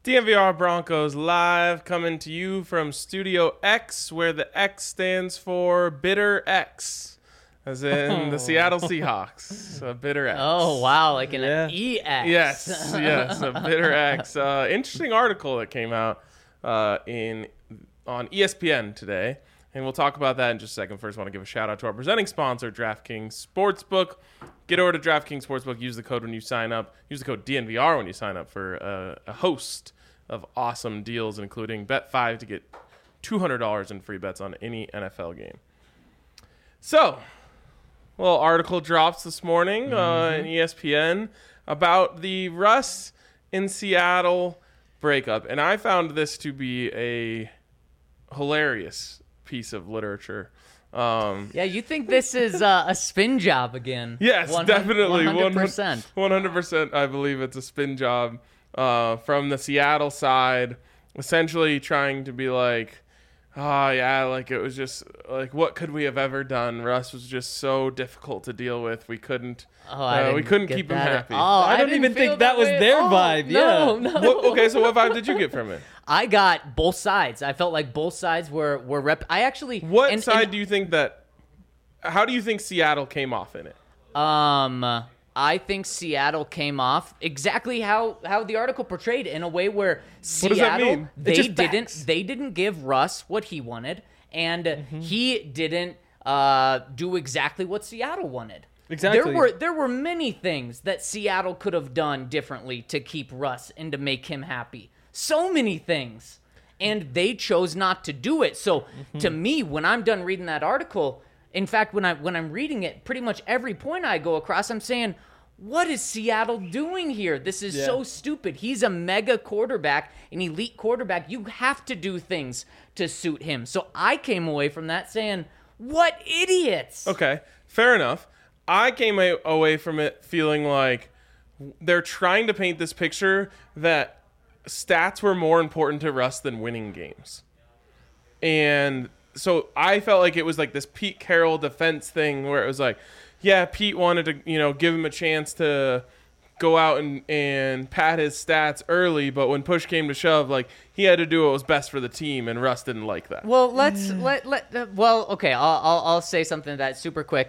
DNVR Broncos live coming to you from Studio X, where the X stands for Bitter X, as in the Seattle Seahawks. A Bitter X. Oh, wow, like an EX. Yes, a Bitter X. Interesting article that came out on ESPN today, and we'll talk about that in just a second. First, I want to give a shout out to our presenting sponsor, DraftKings Sportsbook. Get over to DraftKings Sportsbook. Use the code when you sign up. Use the code DNVR when you sign up for a host of awesome deals, including bet 5 to get $200 in free bets on any NFL game. So, a little article drops this morning in ESPN about the Russ in Seattle breakup, and I found this to be a hilarious piece of literature. Yeah, you think this is a spin job again? Yes, 100%, definitely. 100%. 100%, I believe it's a spin job from the Seattle side, essentially trying to be like, oh, yeah, like it was just like, what could we have ever done? Russ was just so difficult to deal with. We couldn't keep him happy. Oh, I don't even think that was their vibe. No, yeah. no. Okay, so what vibe did you get from it? I got both sides. I felt like both sides were I actually. What side do you think that? How do you think Seattle came off in it? I think Seattle came off exactly how the article portrayed, in a way where Seattle, does that mean? they didn't give Russ what he wanted, and he didn't do exactly what Seattle wanted. Exactly. There were many things that Seattle could have done differently to keep Russ and to make him happy. So many things, and they chose not to do it. So to me, when I'm done reading that article, in fact, when I'm reading it, pretty much every point I go across, I'm saying, what is Seattle doing here? This is so stupid. He's a mega quarterback, an elite quarterback. You have to do things to suit him. So I came away from that saying, what idiots. Okay, fair enough. I came away from it feeling like they're trying to paint this picture that stats were more important to Russ than winning games. And so I felt like it was like this Pete Carroll defense thing where it was like, yeah, Pete wanted to, give him a chance to go out and pad his stats early, but when push came to shove, like, he had to do what was best for the team, and Russ didn't like that. Well, okay, I'll say something to that super quick.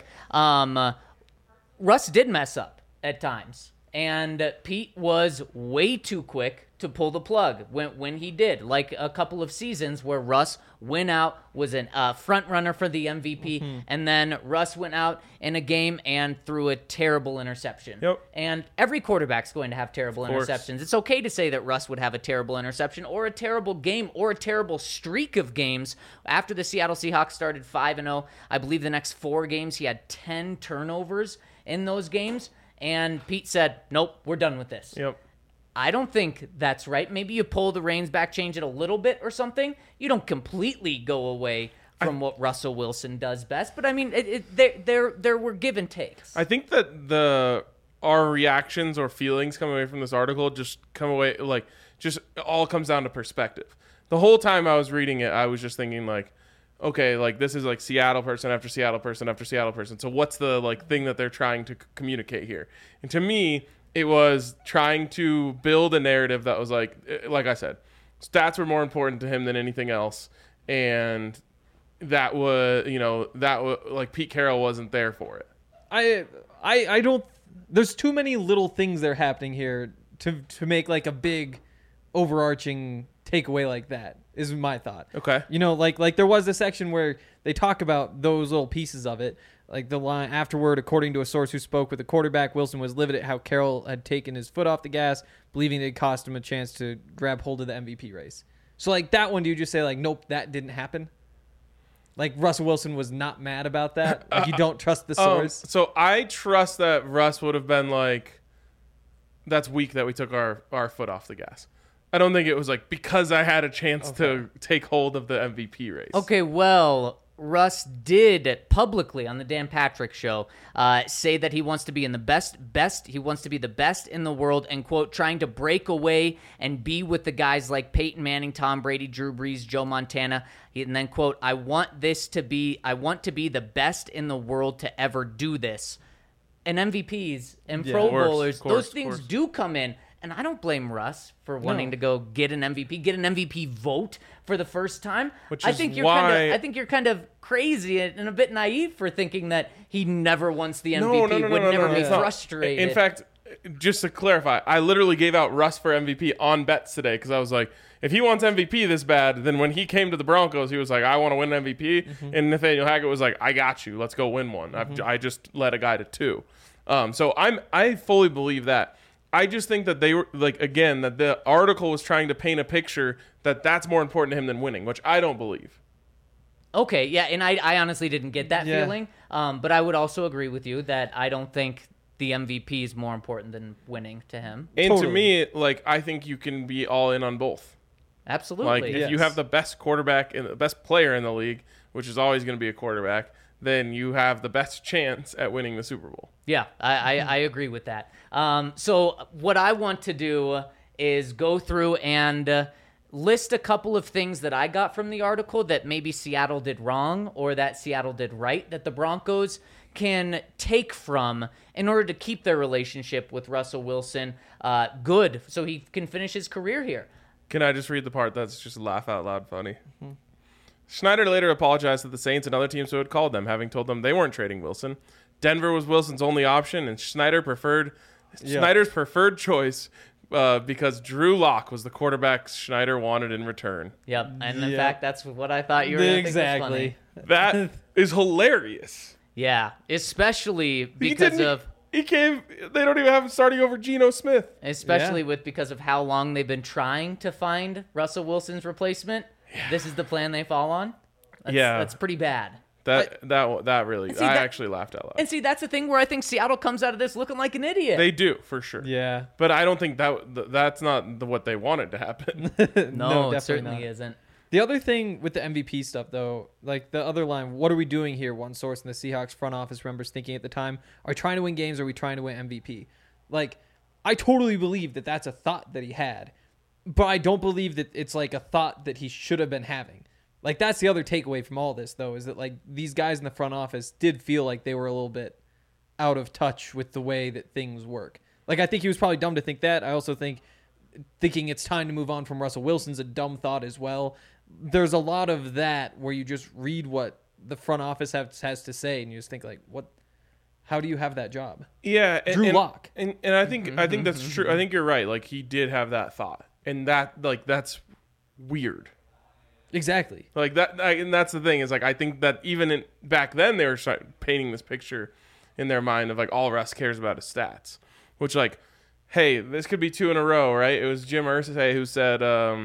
Russ did mess up at times, and Pete was way too quick to pull the plug when he did, like a couple of seasons where Russ went out, was a front runner for the MVP, and then Russ went out in a game and threw a terrible interception. Yep. And every quarterback's going to have terrible interceptions. It's okay to say that Russ would have a terrible interception or a terrible game or a terrible streak of games. After the Seattle Seahawks started 5-0, I believe the next 4 games he had 10 turnovers in those games, and Pete said, nope, we're done with this. Yep. I don't think that's right. Maybe you pull the reins back, change it a little bit or something. You don't completely go away from what Russell Wilson does best. But, I mean, there were give and takes. I think that our reactions or feelings coming away from this article just all comes down to perspective. The whole time I was reading it, I was just thinking, like, okay, like, this is like Seattle person after Seattle person after Seattle person. So what's the thing that they're trying to communicate here? And to me, it was trying to build a narrative that was like I said, stats were more important to him than anything else, and that was like Pete Carroll wasn't there for it. I don't. There's too many little things that are happening here to make like a big overarching takeaway like that, is my thought. Okay. Like there was a section where they talk about those little pieces of it. Like the line afterward, according to a source who spoke with the quarterback, Wilson was livid at how Carroll had taken his foot off the gas, believing it cost him a chance to grab hold of the MVP race. So like that one, do you just say like, nope, that didn't happen? Like Russell Wilson was not mad about that? Like you don't trust the source? So I trust that Russ would have been like, that's weak that we took our foot off the gas. I don't think it was like because I had a chance to take hold of the MVP race. Okay, well, Russ did publicly on the Dan Patrick Show say that he wants to be in the best. He wants to be the best in the world, and quote, trying to break away and be with the guys like Peyton Manning, Tom Brady, Drew Brees, Joe Montana. And then quote, I want to be the best in the world to ever do this. And MVPs and Pro Bowlers, those things do come in And I don't blame Russ for wanting to go get an MVP vote for the first time. Which I is think why- I think you're kind of crazy and a bit naive for thinking that he never wants the MVP, would never be it's not. frustrated. In fact, just to clarify, I literally gave out Russ for MVP on bets today because I was like, if he wants MVP this bad, then when he came to the Broncos, he was like, I want to win an MVP. And Nathaniel Hackett was like, I got you. Let's go win one. I just led a guy to 2. So I fully believe that. I just think that they were like, again, that the article was trying to paint a picture that that's more important to him than winning, which I don't believe. Okay, yeah, and I honestly didn't get that Yeah. feeling. But I would also agree with you that I don't think the MVP is more important than winning to him. And Totally. to me, like, I think you can be all in on both. Absolutely. Like, if you Yes. have the best quarterback and the best player in the league, which is always going to be a quarterback, then you have the best chance at winning the Super Bowl. Yeah, I agree with that. So what I want to do is go through and list a couple of things that I got from the article that maybe Seattle did wrong or that Seattle did right that the Broncos can take from in order to keep their relationship with Russell Wilson good so he can finish his career here. Can I just read the part that's just laugh out loud funny? Schneider later apologized to the Saints and other teams who had called them, having told them they weren't trading Wilson. Denver was Wilson's only option, and Schneider's preferred choice because Drew Lock was the quarterback Schneider wanted in return. Yep, and in Yep. fact, that's what I thought you were going to think was funny. Exactly. That is hilarious. Yeah, especially because of... He came. They don't even have him starting over Geno Smith. Especially because of how long they've been trying to find Russell Wilson's replacement. This is the plan they fall on. That's pretty bad. That really. see, I that- actually laughed out loud. And see, that's the thing where I think Seattle comes out of this looking like an idiot. They do for sure. Yeah. But I don't think that's not what they wanted to happen. no, definitely it certainly not. isn't. The other thing with the MVP stuff, though, like the other line, what are we doing here? One source in the Seahawks front office remembers thinking at the time, are we trying to win games or are we trying to win MVP? Like, I totally believe that that's a thought that he had, but I don't believe that it's like a thought that he should have been having. Like, that's the other takeaway from all this, though, is that, like, these guys in the front office did feel like they were a little bit out of touch with the way that things work. Like, I think he was probably dumb to think that. I also think thinking it's time to move on from Russell Wilson's a dumb thought as well. There's a lot of that where you just read what the front office has to say and you just think, like, what? How do you have that job? Yeah, Drew Lock. and I think that's true. I think you're right. Like, he did have that thought, and that's weird. Exactly. Like that, and that's the thing is, like, I think that even back then they were painting this picture in their mind of, like, all Russ cares about is stats, which, like, hey, this could be 2 in a row, right? It was Jim Irsay who said,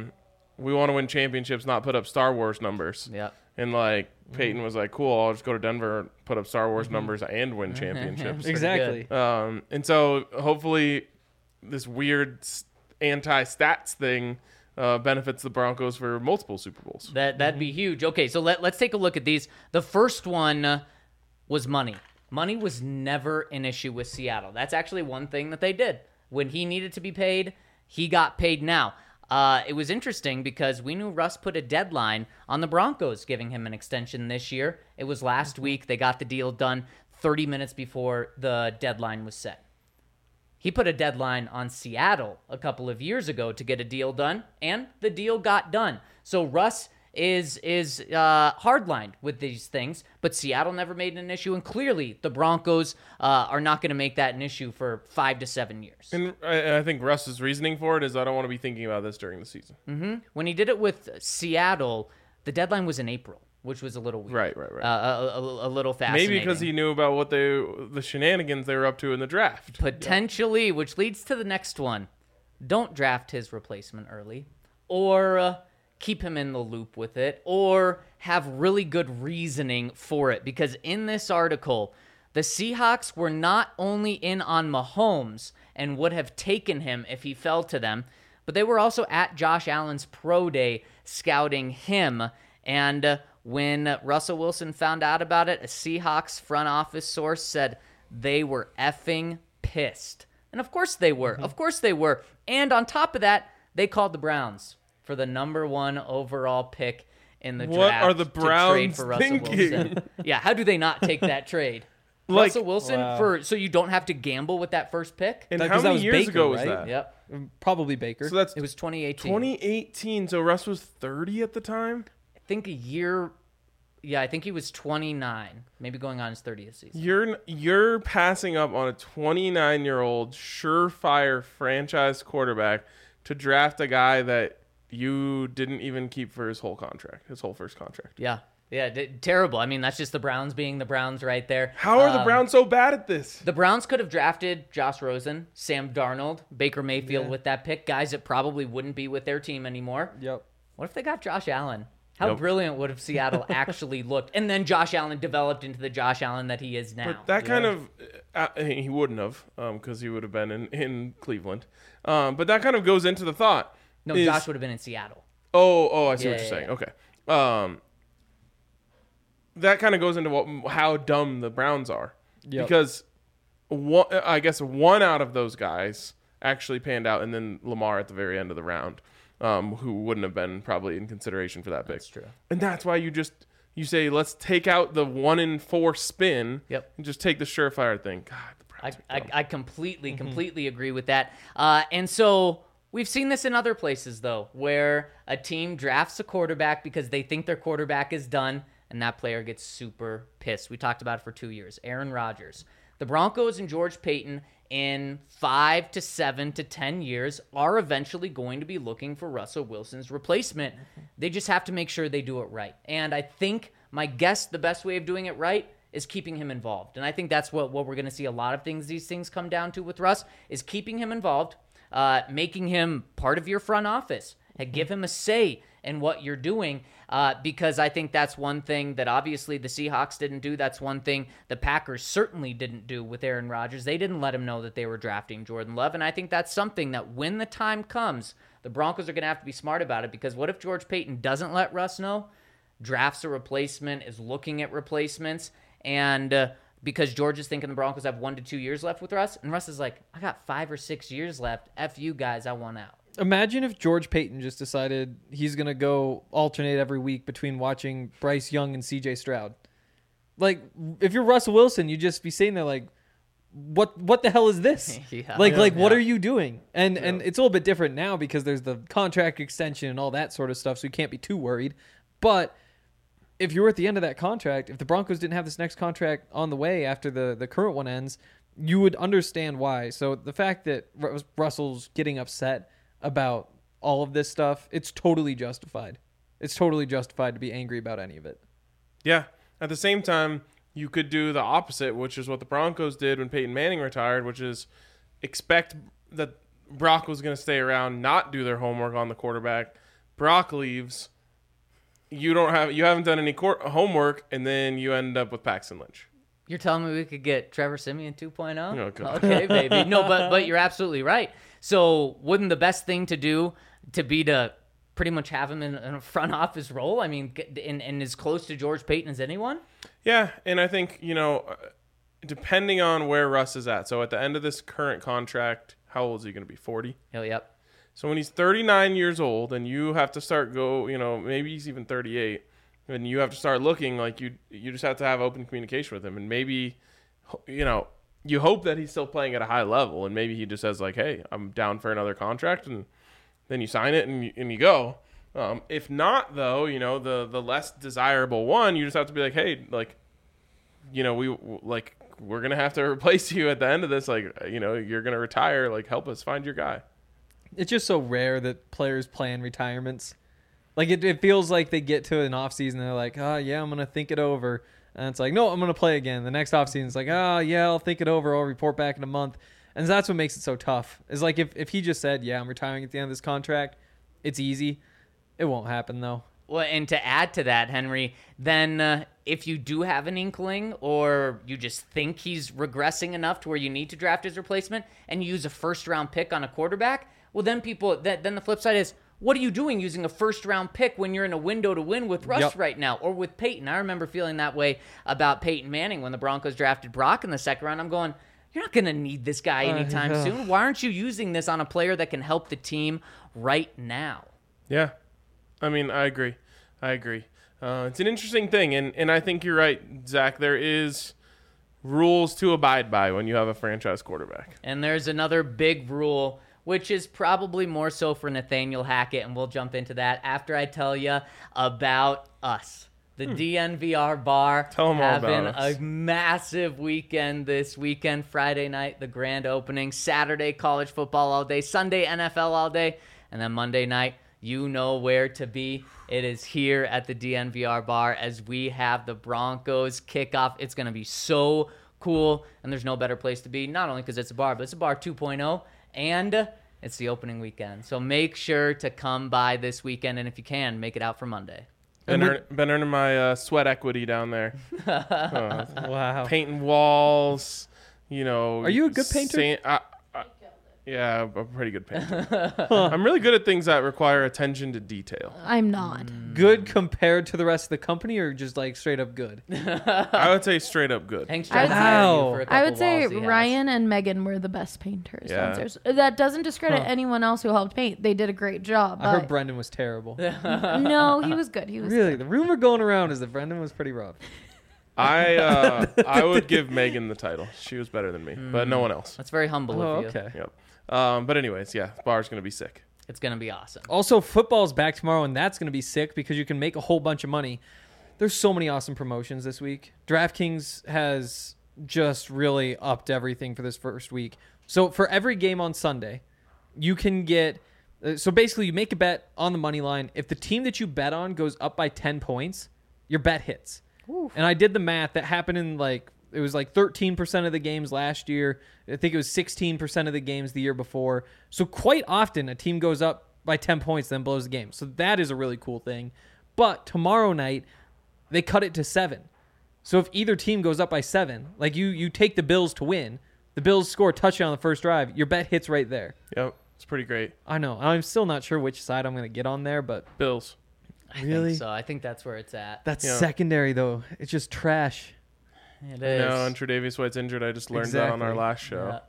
we want to win championships, not put up Star Wars numbers. Yeah. And, like, Peyton was like, cool, I'll just go to Denver and put up Star Wars numbers and win championships. Exactly. And so hopefully this weird anti-stats thing benefits the Broncos for multiple Super Bowls. That'd be huge. Okay, so let's take a look at these. The first one was money. Money was never an issue with Seattle. That's actually one thing that they did. When he needed to be paid, he got paid now. It was interesting because we knew Russ put a deadline on the Broncos giving him an extension this year. It was last week. They got the deal done 30 minutes before the deadline was set. He put a deadline on Seattle a couple of years ago to get a deal done, and the deal got done. So Russ is hardlined with these things, but Seattle never made it an issue, and clearly the Broncos are not going to make that an issue for 5 to 7 years. And I think Russ's reasoning for it is, I don't want to be thinking about this during the season. When he did it with Seattle, the deadline was in April, which was a little weird. Right. A little fascinating. Maybe because he knew about what the shenanigans they were up to in the draft. Potentially, which leads to the next one. Don't draft his replacement early, or keep him in the loop with it, or have really good reasoning for it. Because in this article, the Seahawks were not only in on Mahomes and would have taken him if he fell to them, but they were also at Josh Allen's pro day scouting him. And when Russell Wilson found out about it, a Seahawks front office source said they were effing pissed. And of course they were. Of course they were. And on top of that, they called the Browns for the number 1 overall pick in the What draft are the to trade Browns for Russell thinking? Wilson. Yeah, how do they not take that trade? Russell Wilson Wow. so you don't have to gamble with that first pick. And That- how 'cause that many was years Baker, ago was right? that? Yep. Probably Baker. So that's It was 2018. 2018. So Russ was 30 at the time. I think a year. Yeah, I think he was 29, maybe going on his 30th season. You're passing up on a 29-year-old surefire franchise quarterback to draft a guy that you didn't even keep for his whole contract, his whole first contract. Yeah. Yeah, terrible. I mean, that's just the Browns being the Browns right there. How are the Browns so bad at this? The Browns could have drafted Josh Rosen, Sam Darnold, Baker Mayfield with that pick, guys that probably wouldn't be with their team anymore. Yep. What if they got Josh Allen? How Yep. brilliant would have Seattle actually looked? And then Josh Allen developed into the Josh Allen that he is now. But that kind of he wouldn't have because he would have been in Cleveland. But that kind of goes into the thought. No, is- Josh would have been in Seattle. Oh, I see Yeah, what you're yeah, saying. yeah. Okay. That kind of goes into how dumb the Browns are. Yep. Because I guess one out of those guys actually panned out, and then Lamar at the very end of the round, who wouldn't have been probably in consideration for that pick. That's true. And that's why you say, let's take out the 1-in-4 spin Yep. and just take the surefire thing. God, the Browns are dumb. I completely agree with that. And so we've seen this in other places, though, where a team drafts a quarterback because they think their quarterback is done, and that player gets super pissed. We talked about it for 2 years. Aaron Rodgers. The Broncos and George Payton in 5 to 7 to 10 years are eventually going to be looking for Russell Wilson's replacement. They just have to make sure they do it right. And I think, my guess, the best way of doing it right is keeping him involved. And I think that's what we're going to see a lot of these things come down to with Russ, is keeping him involved, making him part of your front office, and give him a say in what you're doing, because I think that's one thing that obviously the Seahawks didn't do. That's one thing the Packers certainly didn't do with Aaron Rodgers. They didn't let him know that they were drafting Jordan Love, and I think that's something that when the time comes, the Broncos are going to have to be smart about it, because what if George Payton doesn't let Russ know, drafts a replacement, is looking at replacements, and because George is thinking the Broncos have 1 to 2 years left with Russ, and Russ is like, I got 5 or 6 years left. F you guys, I want out. Imagine if George Payton just decided he's going to go alternate every week between watching Bryce Young and CJ Stroud. Like, if you're Russell Wilson, you'd just be sitting there like, what the hell is this? Yeah. What are you doing? And it's a little bit different now because there's the contract extension and all that sort of stuff, so you can't be too worried. But if you were at the end of that contract, if the Broncos didn't have this next contract on the way after the current one ends, you would understand why. So the fact that Russell's getting upset about all of this stuff, it's totally justified. It's totally justified to be angry about any of it. Yeah. At the same time, you could do the opposite, which is what the Broncos did when Peyton Manning retired, which is expect that Brock was going to stay around, not do their homework on the quarterback. Brock leaves. You haven't done any homework, and then you end up with Paxton Lynch. You're telling me we could get Trevor Siemian 2.0? Oh, God. Okay, baby. No, but you're absolutely right. So wouldn't the best thing to do be to pretty much have him in a front office role? I mean, and as close to George Payton as anyone? Yeah, and I think, depending on where Russ is at. So at the end of this current contract, how old is he going to be? 40? Oh, yep. So when he's 39 years old and you have to start maybe he's even 38, and you have to start looking like you just have to have open communication with him. And maybe, you hope that he's still playing at a high level, and maybe he just says like, hey, I'm down for another contract, and then you sign it and you go. If not, though, the less desirable one, you just have to be like, hey, we're going to have to replace you at the end of this. Like, you're going to retire. Like, help us find your guy. It's just so rare that players plan retirements. Like, it feels like they get to an offseason and they're like, oh, yeah, I'm going to think it over. And it's like, no, I'm going to play again. The next offseason, it's like, oh, yeah, I'll think it over. I'll report back in a month. And that's what makes it so tough. Is like if he just said, yeah, I'm retiring at the end of this contract, it's easy. It won't happen, though. Well, and to add to that, Henry, then if you do have an inkling or you just think he's regressing enough to where you need to draft his replacement and you use a first-round pick on a quarterback, well, then then the flip side is, what are you doing using a first-round pick when you're in a window to win with Russ right now or with Peyton? I remember feeling that way about Peyton Manning when the Broncos drafted Brock in the second round. I'm going, you're not going to need this guy anytime soon. Why aren't you using this on a player that can help the team right now? Yeah. I mean, I agree. It's an interesting thing, and I think you're right, Zach. There is rules to abide by when you have a franchise quarterback. And there's another big rule, which is probably more so for Nathaniel Hackett, and we'll jump into that after I tell you about us. The DNVR bar Tell 'em all about having us. a massive weekend this weekend. Friday night, the grand opening. Saturday, college football all day. Sunday, NFL all day. And then Monday night, you know where to be. It is here at the DNVR bar as we have the Broncos kickoff. It's going to be so cool, and there's no better place to be, not only because it's a bar, but it's a bar 2.0, and it's the opening weekend. So make sure to come by this weekend, and if you can, make it out for Monday. Been earning my sweat equity down there. Wow. Painting walls, you know. Are you a good painter? Yeah, I'm a pretty good painter. I'm really good at things that require attention to detail. I'm not. Good compared to the rest of the company, or just like straight up good? I would say straight up good. Hank's I trying would to hire you say- for a couple I would say walls he has. Ryan and Megan were the best painters Yeah. downstairs. That doesn't discredit anyone else who helped paint. They did a great job. I heard But Brendan was terrible. no, he was good. He was Really, good. the rumor going around is that Brendan was pretty rough. I would give Megan the title. She was better than me, but no one else. That's very humble Oh, of you. okay. Yep. But anyways, yeah, bar's gonna be sick. It's going to be awesome. Also, football's back tomorrow, and that's going to be sick because you can make a whole bunch of money. There's so many awesome promotions this week. DraftKings has just really upped everything for this first week. So for every game on Sunday, you can get so basically you make a bet on the money line. If the team that you bet on goes up by 10 points, your bet hits. And I did the math. That happened in it was like 13% of the games last year. I think it was 16% of the games the year before. So quite often a team goes up by 10 points, then blows the game. So that is a really cool thing. But tomorrow night, they cut it to 7. So if either team goes up by 7, like you take the Bills to win, the Bills score a touchdown on the first drive, your bet hits right there. Yep, it's pretty great. I know. I'm still not sure which side I'm going to get on there, but Bills. I Really? think so. I think that's where it's at. that's Yeah. secondary, though. It's just trash. It No, is. and Tre'Davious White's injured. I just learned that on our Exactly. last show.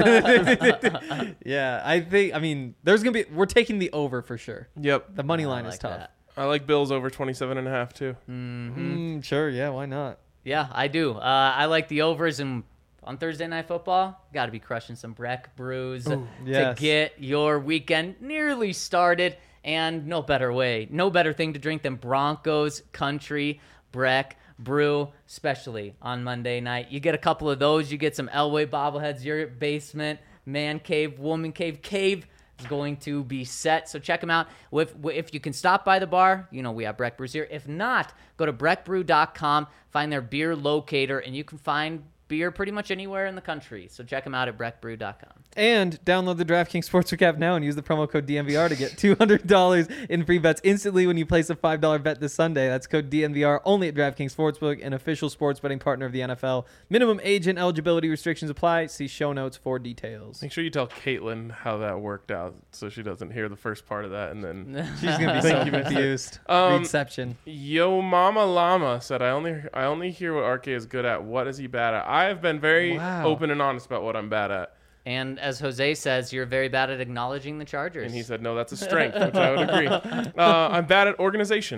Yeah. Yeah, there's going to be, we're taking the over for sure. Yep. The money I line like is tough. that. I like Bills over 27.5 too. Sure, yeah, why not? Yeah, I do. I like the overs, and on Thursday Night Football, got to be crushing some Breck brews yes. to get your weekend nearly started. And no better thing to drink than Broncos Country Breck Brew, especially on Monday night. You get a couple of those, you get some Elway bobbleheads, your basement, man cave, woman cave, cave is going to be set. So check them out. If you can stop by the bar, we have Breck Brews here. If not, go to breckbrew.com, find their beer locator, and you can find beer pretty much anywhere in the country. So check them out at breckbrew.com. And download the DraftKings Sportsbook app now and use the promo code DNVR to get $200 in free bets instantly when you place a $5 bet this Sunday. That's code DNVR only at DraftKings Sportsbook, an official sports betting partner of the NFL. Minimum age and eligibility restrictions apply. See show notes for details. Make sure you tell Caitlin how that worked out so she doesn't hear the first part of that and then She's going to be so confused. Reception. Yo Mama Llama said I only hear what RK is good at. What is he bad at? I have been very Wow. open and honest about what I'm bad at. And as Jose says, you're very bad at acknowledging the Chargers. And he said, no, that's a strength, which I would agree. I'm bad at organization.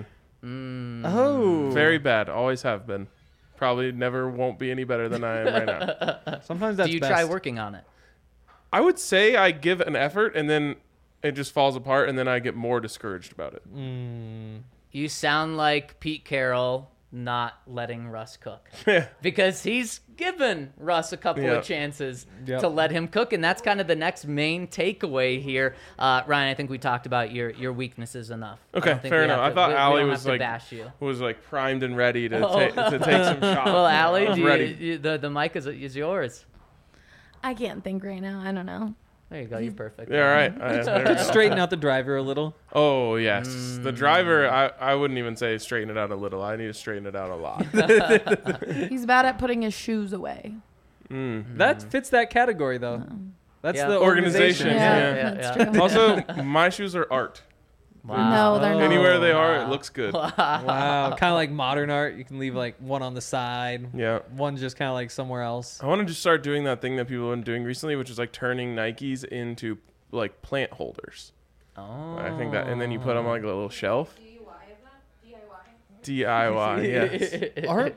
Oh. Very bad. Always have been. Probably never won't be any better than I am right now. Sometimes that's Do you best. try working on it? I would say I give an effort and then it just falls apart and then I get more discouraged about it. You sound like Pete Carroll not letting Russ cook. Yeah. Because he's given Russ a couple Yep. of chances Yep. to let him cook, and that's kind of the next main takeaway here. Ryan, I think we talked about your weaknesses enough. I Okay, don't think fair we enough. have I thought we Allie don't was have to like bash you. primed and ready to take some shots. Well, I Allie, was ready. the mic is yours. I can't think right now. I don't know. There you go. You're perfect. Yeah, all right. There we go. Straighten out the driver a little. Oh, yes. The driver, I wouldn't even say straighten it out a little. I need to straighten it out a lot. He's bad at putting his shoes away. That fits that category, though. That's Yeah. the Organization. organization. Yeah. That's yeah. true. Also, my shoes are art. No, they're not. Anywhere they are, wow. it looks good. Wow. Kind of like modern art. You can leave like one on the side. Yeah. One just kind of like somewhere else. I want to just start doing that thing that people have been doing recently, which is like turning Nikes into like plant holders. Oh. I think that, and then you put them on like a little shelf. DIY, yes. Art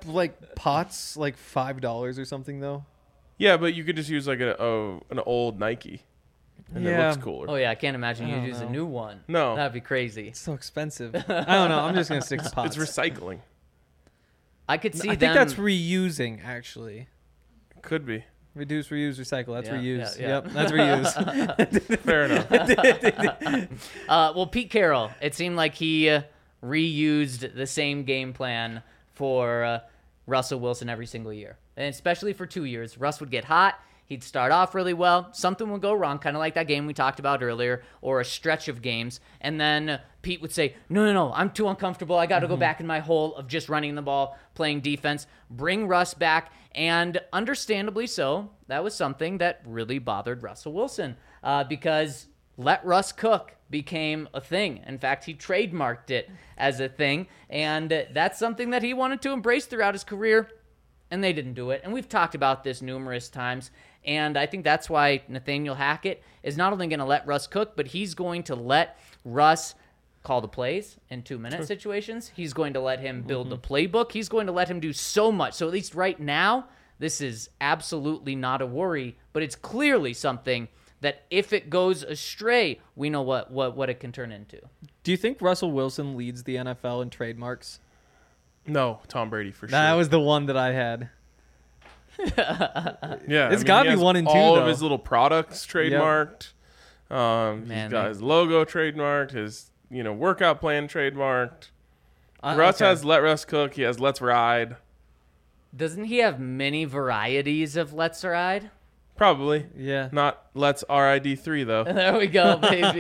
like pots like $5 or something though? Yeah, but you could just use like an old Nike, and it Yeah. looks cooler. Oh yeah, I can't imagine I you don't use a know. new one. No. That'd be crazy. It's so expensive. I don't know. I'm just gonna stick to pots. It's recycling. I could see I them. think that's reusing actually. Could be. Reduce, reuse, recycle. That's Yeah, reuse. yeah, yeah. Yep, that's reuse. Fair enough. Well, Pete Carroll, it seemed like he reused the same game plan for Russell Wilson every single year, and especially for 2 years. Russ would get hot. He'd start off really well. Something would go wrong, kind of like that game we talked about earlier, or a stretch of games. And then Pete would say, no, I'm too uncomfortable. I got to go back in my hole of just running the ball, playing defense, bring Russ back. And understandably so, that was something that really bothered Russell Wilson because let Russ cook became a thing. In fact, he trademarked it as a thing. And that's something that he wanted to embrace throughout his career. And they didn't do it. And we've talked about this numerous times. And I think that's why Nathaniel Hackett is not only going to let Russ cook, but he's going to let Russ call the plays in 2-minute situations. He's going to let him build the playbook. He's going to let him do so much. So at least right now, this is absolutely not a worry, but it's clearly something that if it goes astray, we know what it can turn into. Do you think Russell Wilson leads the NFL in trademarks? No, Tom Brady for sure. That was the one that I had. Yeah, It's gotta he be has 1 and 2, all of though. his little products trademarked. Man, He's got his logo trademarked. His workout plan trademarked. Uh, Russ okay. has Let Russ Cook. He has Let's Ride. Doesn't he have many varieties of Let's Ride? Probably Yeah. not Let's RID3 though. There we go, baby.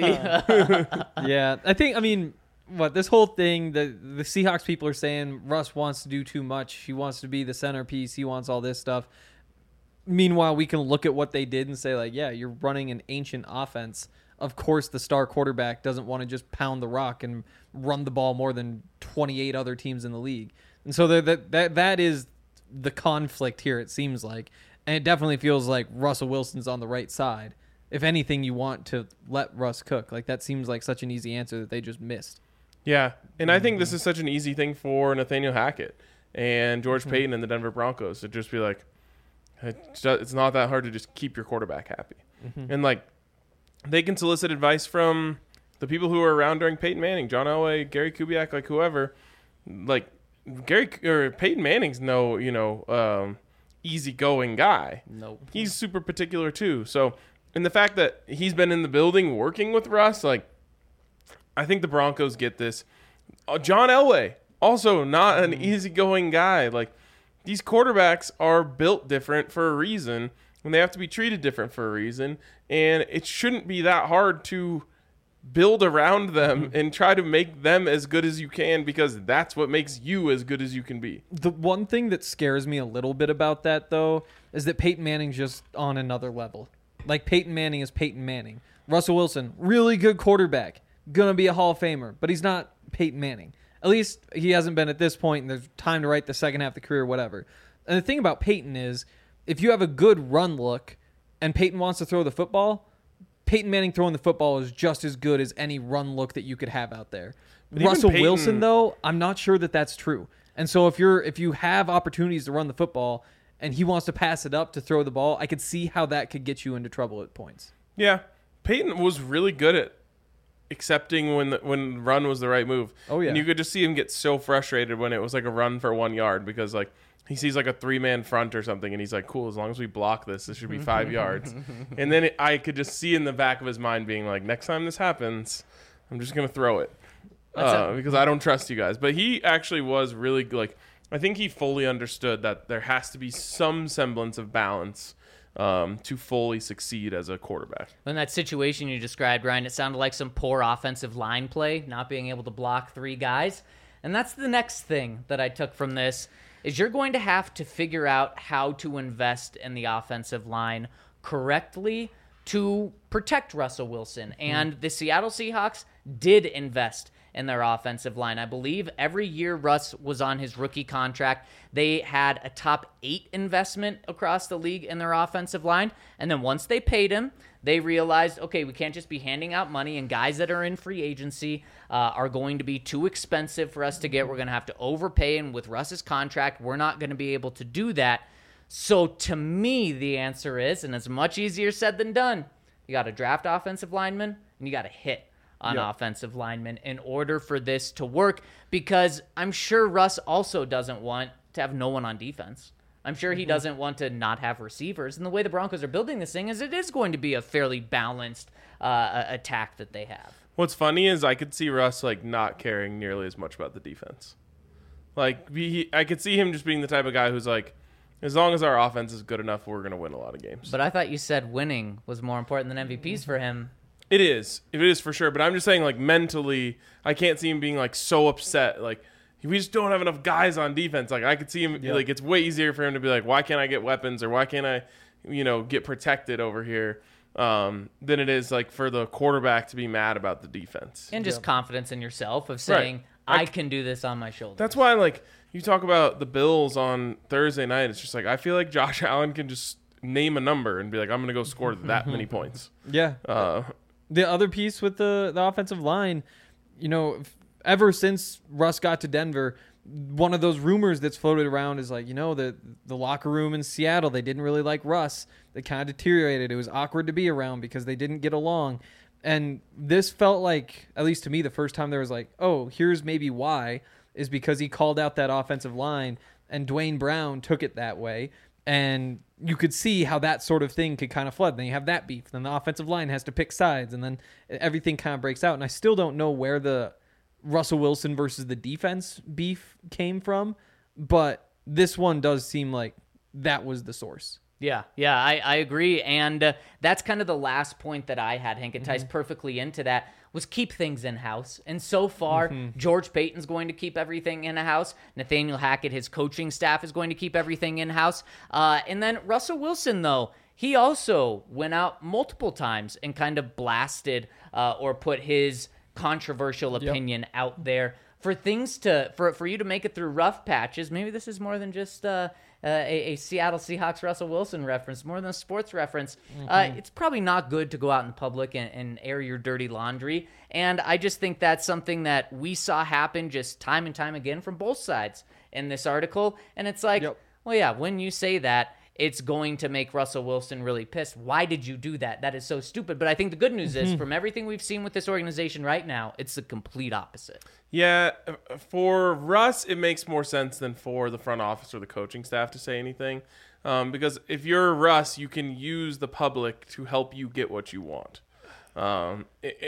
Yeah. I mean, this whole thing, the Seahawks people are saying Russ wants to do too much. He wants to be the centerpiece. He wants all this stuff. Meanwhile, we can look at what they did and say, like, yeah, you're running an ancient offense. Of course, the star quarterback doesn't want to just pound the rock and run the ball more than 28 other teams in the league. And so that is the conflict here, it seems like. And it definitely feels like Russell Wilson's on the right side. If anything, you want to let Russ cook. Like, that seems like such an easy answer that they just missed. Yeah, and I think this is such an easy thing for Nathaniel Hackett and George Payton and the Denver Broncos to just be like, it's not that hard to just keep your quarterback happy. And, like, they can solicit advice from the people who were around during Peyton Manning, John Elway, Gary Kubiak, like whoever. Like, Peyton Manning's no, easygoing guy. Nope. He's super particular, too. So, and the fact that he's been in the building working with Russ, like, I think the Broncos get this. John Elway, also not an easygoing guy. Like, these quarterbacks are built different for a reason, and they have to be treated different for a reason. And it shouldn't be that hard to build around them and try to make them as good as you can, because that's what makes you as good as you can be. The one thing that scares me a little bit about that, though, is that Peyton Manning's just on another level. Like, Peyton Manning is Peyton Manning. Russell Wilson, really good quarterback. Gonna be a Hall of Famer, but he's not Peyton Manning. At least he hasn't been at this point, and there's time to write the second half of the career, whatever. And the thing about Peyton is, if you have a good run look and Peyton wants to throw the football, Peyton Manning throwing the football is just as good as any run look that you could have out there. But even Russell Peyton- Wilson, though, I'm not sure that that's true. And so if you have opportunities to run the football and he wants to pass it up to throw the ball, I could see how that could get you into trouble at points. Yeah, Peyton was really good at accepting when run was the right move. Oh, yeah. And you could just see him get so frustrated when it was like a run for 1 yard, because like he sees like a 3-man front or something, and he's like, cool, as long as we block this should be 5 yards. And then I could just see in the back of his mind being like, next time this happens, I'm just going to throw it because I don't trust you guys. But he actually was really like, I think he fully understood that there has to be some semblance of balance to fully succeed as a quarterback. In that situation you described, Ryan, it sounded like some poor offensive line play, not being able to block 3 guys. And that's the next thing that I took from this, is you're going to have to figure out how to invest in the offensive line correctly to protect Russell Wilson. And the Seattle Seahawks did invest in their offensive line. I believe every year Russ was on his rookie contract, they had a top 8 investment across the league in their offensive line. And then once they paid him, they realized, okay, we can't just be handing out money, and guys that are in free agency are going to be too expensive for us to get. We're going to have to overpay, and with Russ's contract, we're not going to be able to do that. So to me, the answer is, and it's much easier said than done, you got to draft offensive linemen, and you got to hit on offensive linemen in order for this to work, because I'm sure Russ also doesn't want to have no one on defense. I'm sure he doesn't want to not have receivers. And the way the Broncos are building this thing is it is going to be a fairly balanced attack that they have. What's funny is I could see Russ like not caring nearly as much about the defense. Like I could see him just being the type of guy who's like, as long as our offense is good enough, we're going to win a lot of games. But I thought you said winning was more important than MVPs for him. It is for sure. But I'm just saying, like, mentally, I can't see him being like so upset. Like, we just don't have enough guys on defense. Like, I could see him like it's way easier for him to be like, why can't I get weapons, or why can't I, get protected over here, than it is like for the quarterback to be mad about the defense. And just confidence in yourself of saying, I can do this on my shoulders. That's why, like, you talk about the Bills on Thursday night. It's just like I feel like Josh Allen can just name a number and be like, I'm going to go score that many points. Yeah. The other piece with the offensive line, ever since Russ got to Denver, one of those rumors that's floated around is like, the locker room in Seattle, they didn't really like Russ. They kind of deteriorated. It was awkward to be around because they didn't get along. And this felt like, at least to me, the first time there was like, oh, here's maybe why, is because he called out that offensive line and Dwayne Brown took it that way. And you could see how that sort of thing could kind of flood. Then you have that beef. Then the offensive line has to pick sides, and then everything kind of breaks out. And I still don't know where the Russell Wilson versus the defense beef came from, but this one does seem like that was the source. Yeah, I agree. And that's kind of the last point that I had, Hank. It ties perfectly into that, was keep things in-house. And so far, George Paton's going to keep everything in-house. Nathaniel Hackett, his coaching staff, is going to keep everything in-house. And then Russell Wilson, though, he also went out multiple times and kind of blasted or put his controversial opinion out there for things for you to make it through rough patches. Maybe this is more than just a Seattle Seahawks Russell Wilson reference, more than a sports reference. It's probably not good to go out in public and air your dirty laundry. And I just think that's something that we saw happen just time and time again from both sides in this article. And it's like, well, yeah, when you say that, it's going to make Russell Wilson really pissed. Why did you do that? That is so stupid. But I think the good news is, from everything we've seen with this organization right now, it's the complete opposite. Yeah, for Russ, it makes more sense than for the front office or the coaching staff to say anything. Because if you're Russ, you can use the public to help you get what you want. And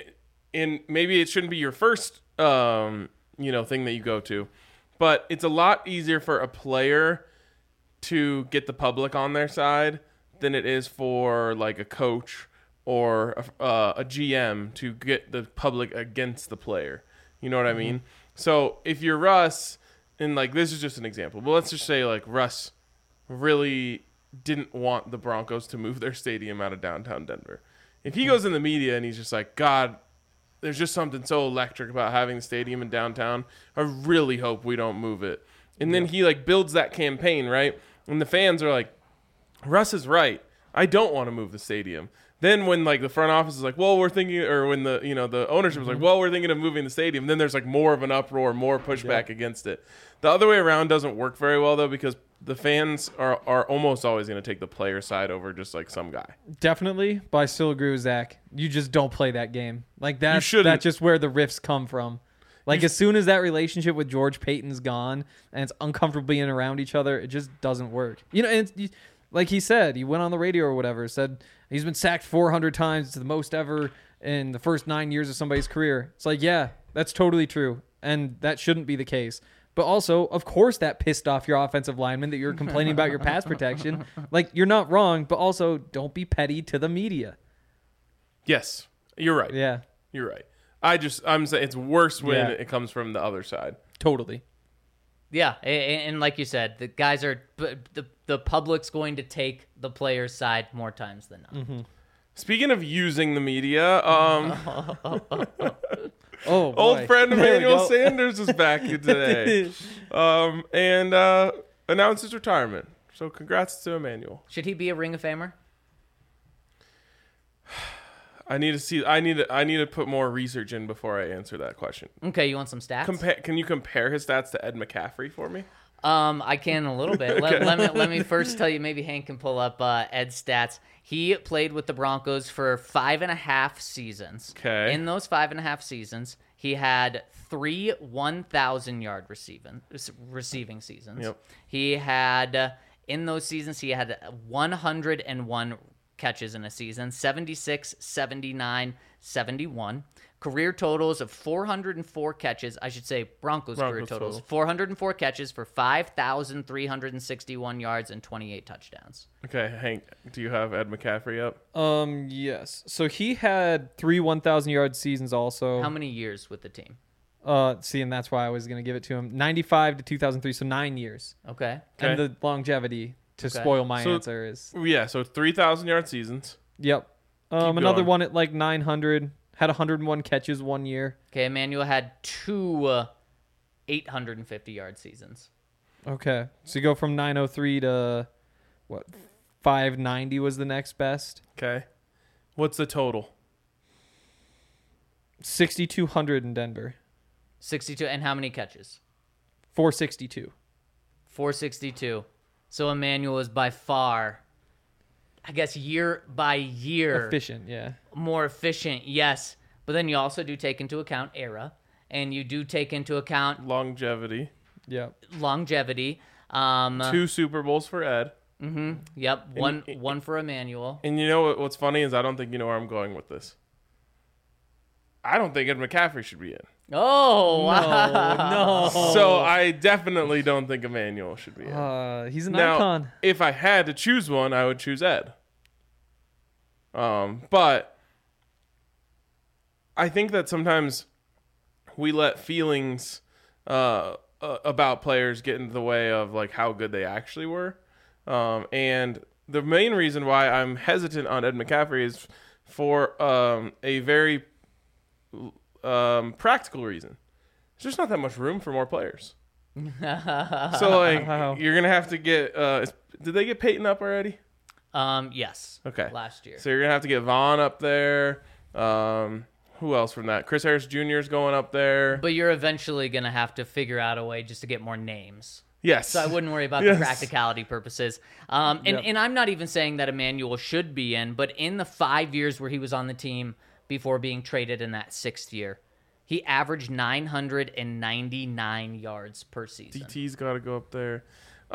maybe it shouldn't be your first, thing that you go to. But it's a lot easier for a player to get the public on their side than it is for like a coach or a GM to get the public against the player. You know what I mean? So if you're Russ, and like this is just an example, but let's just say like Russ really didn't want the Broncos to move their stadium out of downtown Denver. If he goes in the media and he's just like, God, there's just something so electric about having the stadium in downtown. I really hope we don't move it. And then he like builds that campaign, right? And the fans are like, Russ is right. I don't want to move the stadium. Then when like the front office is like, well, we're thinking, or when the ownership is like, well, we're thinking of moving the stadium. Then there's like more of an uproar, more pushback against it. The other way around doesn't work very well though, because the fans are almost always going to take the player side over just like some guy. Definitely, but I still agree with Zach. You just don't play that game. Like that's just where the rifts come from. Like, as soon as that relationship with George Paton's gone and it's uncomfortable being around each other, it just doesn't work. And like he said, he went on the radio or whatever, said he's been sacked 400 times. It's the most ever in the first 9 years of somebody's career. It's like, yeah, that's totally true. And that shouldn't be the case. But also, of course, that pissed off your offensive lineman that you're complaining about your pass protection. Like, you're not wrong, but also don't be petty to the media. Yes, you're right. Yeah. You're right. I'm saying it's worse when it comes from the other side. Totally. Yeah, and like you said, the guys are the public's going to take the player's side more times than not. Speaking of using the media, Oh, boy. old friend There we Emmanuel go. Sanders is back today, and announced his retirement. So congrats to Emmanuel. Should he be a Ring of Famer? I need to see. I need to put more research in before I answer that question. Okay, you want some stats? Can you compare his stats to Ed McCaffrey for me? I can a little bit. Let me first tell you. Maybe Hank can pull up Ed's stats. He played with the Broncos for 5.5 seasons. Okay. In those 5.5 seasons, he had 3 1,000-yard receiving seasons. Yep. He had in those seasons he had 101 catches in a season, 76, 79, 71. Career totals of 404 catches. I should say Broncos career totals. 404 catches for 5,361 yards and 28 touchdowns. Okay, Hank, do you have Ed McCaffrey up? Yes. So he had 3 1,000-yard seasons also. How many years with the team? See, and that's why I was going to give it to him. 95 to 2003, so 9 years. Okay. And the longevity to Okay. spoil my So- answer is... Yeah, so 3,000-yard seasons. Yep. Another going. one at like 900. Had 101 catches 1 year. Okay, Emmanuel had 2 850-yard seasons. Okay. So you go from 903 to, what, 590 was the next best? Okay. What's the total? 6,200 in Denver. 62. And how many catches? 462. 462. So Emmanuel is by far, I guess, year by year Efficient, yeah. more efficient, yes. But then you also do take into account era, and you do take into account Longevity. Yep. longevity. 2 Super Bowls for Ed. Yep, one for Emmanuel. And you know what's funny is I don't think you know where I'm going with this. I don't think Ed McCaffrey should be in. Oh, wow. No. So I definitely don't think Emmanuel should be in. He's an Now, icon. if I had to choose one, I would choose Ed. But I think that sometimes we let feelings about players get in the way of like how good they actually were. And the main reason why I'm hesitant on Ed McCaffrey is for a very practical reason. There's just not that much room for more players. So like Wow. you're gonna have to get. Did they get Peyton up already? Yes. Okay. Last year. So you're gonna have to get Vaughn up there. Who else from that? Chris Harris Jr. is going up there. But you're eventually going to have to figure out a way just to get more names. Yes. So I wouldn't worry about Yes. the practicality purposes. And I'm not even saying that Emmanuel should be in, but in the 5 years where he was on the team before being traded in that 6th year, he averaged 999 yards per season. DT's got to go up there.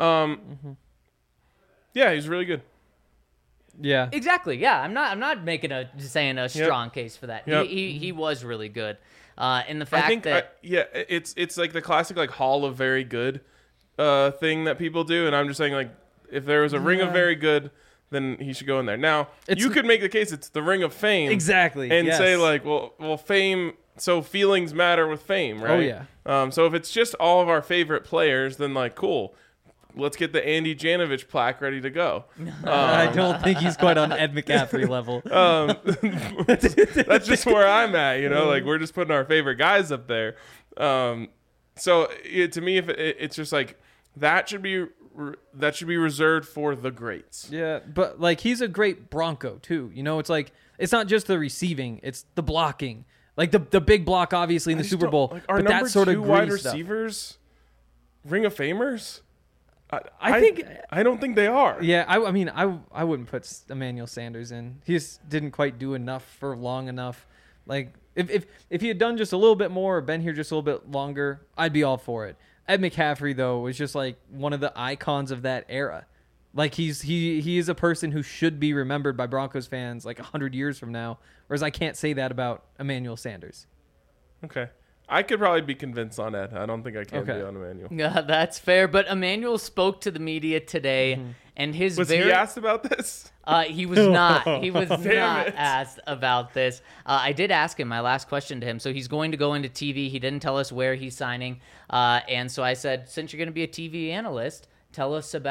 Yeah, he's really good. Yeah. Exactly. Yeah, I'm not making saying a strong case for that. Yep. He was really good. And the fact I think that it's like the classic like Hall of Very Good thing that people do, and I'm just saying like if there was a Ring of Very Good, then he should go in there. Now you could make the case it's the Ring of Fame Exactly. and yes. say like well fame. So feelings matter with fame, right? Oh, yeah. So if it's just all of our favorite players, then like cool. Let's get the Andy Janovich plaque ready to go. I don't think he's quite on Ed McCaffrey level. That's just where I'm at, you know. Like we're just putting our favorite guys up there. To me, if it's just like that should be reserved for the greats. Yeah, but like he's a great Bronco too. You know, it's like it's not just the receiving; it's the blocking. Like the big block, obviously in the Super Bowl, Like, are but number that sort of 2 wide gritty stuff. receivers Ring of Famers? I think. I don't think they are. Yeah, I mean, I wouldn't put Emmanuel Sanders in. He just didn't quite do enough for long enough. Like if he had done just a little bit more or been here just a little bit longer, I'd be all for it. Ed McCaffrey though was just like one of the icons of that era. Like he is a person who should be remembered by Broncos fans like 100 years from now. Whereas I can't say that about Emmanuel Sanders. Okay. I could probably be convinced on Ed. I don't think I can be on Emmanuel. Yeah, that's fair. But Emmanuel spoke to the media today, and his Was he asked about this? he was not. He was not it. asked about this. I did ask him my last question to him. So he's going to go into TV. He didn't tell us where he's signing, and so I said, since you're going to be a TV analyst, tell us about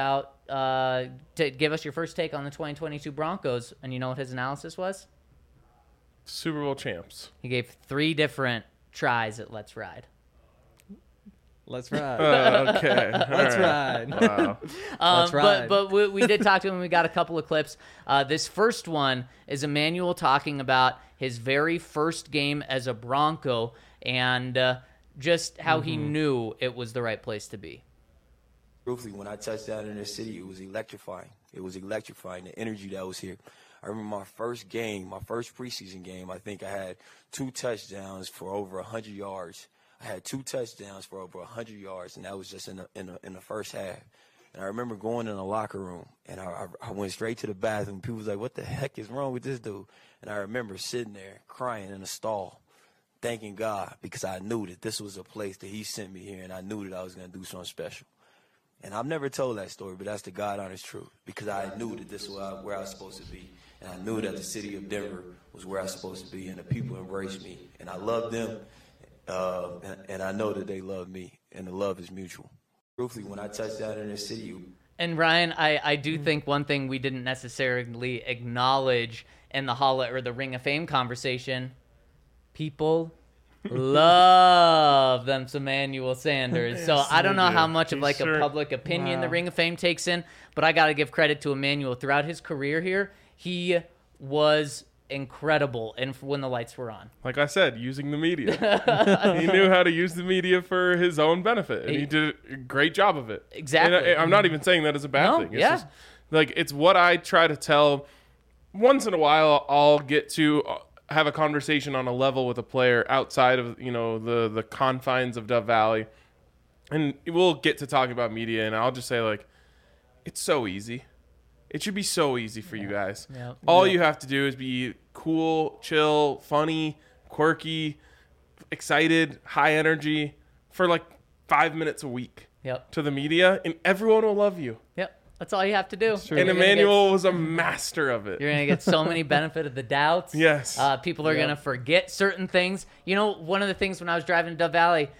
to give us your first take on the 2022 Broncos, and you know what his analysis was? Super Bowl champs. He gave 3 different tries at Let's Ride. Let's ride. Okay. Let's ride. Wow. Let's ride. But we did talk to him. We got a couple of clips. This first one is Emmanuel talking about his very first game as a Bronco and just how he knew it was the right place to be. Truthfully, when I touched down in the city, it was electrifying. It was electrifying, the energy that was here. I remember my first game, my first preseason game, I think I had 2 touchdowns for over 100 yards. I had 2 touchdowns for over 100 yards, and that was just in the first half. And I remember going in the locker room, and I went straight to the bathroom. People was like, what the heck is wrong with this dude? And I remember sitting there crying in a stall, thanking God, because I knew that this was a place that he sent me here, and I knew that I was going to do something special. And I've never told that story, but that's the God-honest truth, because I knew that this was where I was supposed to be. And I knew that the city of Denver was where I was supposed to be, and the people embraced me. And I loved them, and I know that they love me, and the love is mutual. Truthfully, when I touched down in the city. And Ryan, I do think one thing we didn't necessarily acknowledge in the the Ring of Fame conversation, people love them some Emmanuel Sanders. So I don't know how much of like a public opinion the Ring of Fame takes in, but I got to give credit to Emmanuel. Throughout his career here, he was incredible and when the lights were on. Like I said, using the media. He knew how to use the media for his own benefit, and he did a great job of it. Exactly. And I'm not even saying that as a bad thing. It's yeah. just, like, it's what I try to tell. Once in a while, I'll get to have a conversation on a level with a player outside of, you know, the confines of Dove Valley, and we'll get to talking about media, and I'll just say, like, it's so easy. It should be so easy for you guys. Yeah. All you have to do is be cool, chill, funny, quirky, excited, high energy for like 5 minutes a week to the media, and everyone will love you. Yep. That's all you have to do. And Emmanuel was a master of it. You're going to get so many benefit of the doubts. Yes. People are going to forget certain things. You know, one of the things when I was driving to Dove Valley,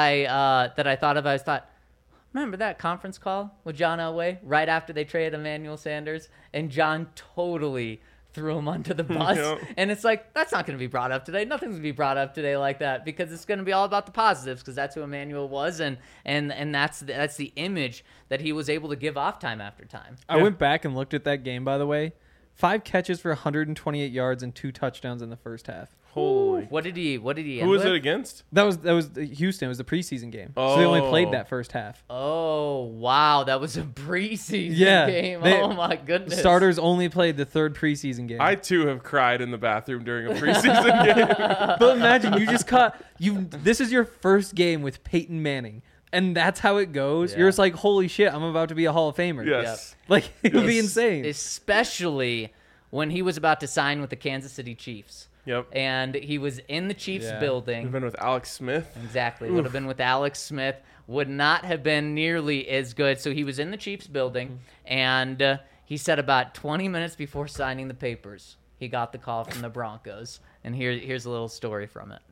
that I thought of, I thought, remember that conference call with John Elway right after they traded Emmanuel Sanders? And John totally threw him under the bus. Yep. And it's like, that's not going to be brought up today. Nothing's going to be brought up today like that, because it's going to be all about the positives, because that's who Emmanuel was, and that's the image that he was able to give off time after time. I went back and looked at that game, by the way. 5 catches for 128 yards and 2 touchdowns in the first half. Holy. What did he Who was it against? That was Houston. It was the preseason game. So they only played that first half. Oh, wow. That was a preseason game. They, oh, my goodness. Starters only played the 3rd preseason game. I, too, have cried in the bathroom during a preseason game. But imagine, you just this is your first game with Peyton Manning. And that's how it goes. Yeah. You're just like, holy shit, I'm about to be a Hall of Famer. Yes. Like, it would be insane. Especially when he was about to sign with the Kansas City Chiefs. Yep. And he was in the Chiefs building. Would have been with Alex Smith. Exactly. Would have been with Alex Smith. Would not have been nearly as good. So he was in the Chiefs building, and he said about 20 minutes before signing the papers, he got the call from the Broncos. And here's a little story from it.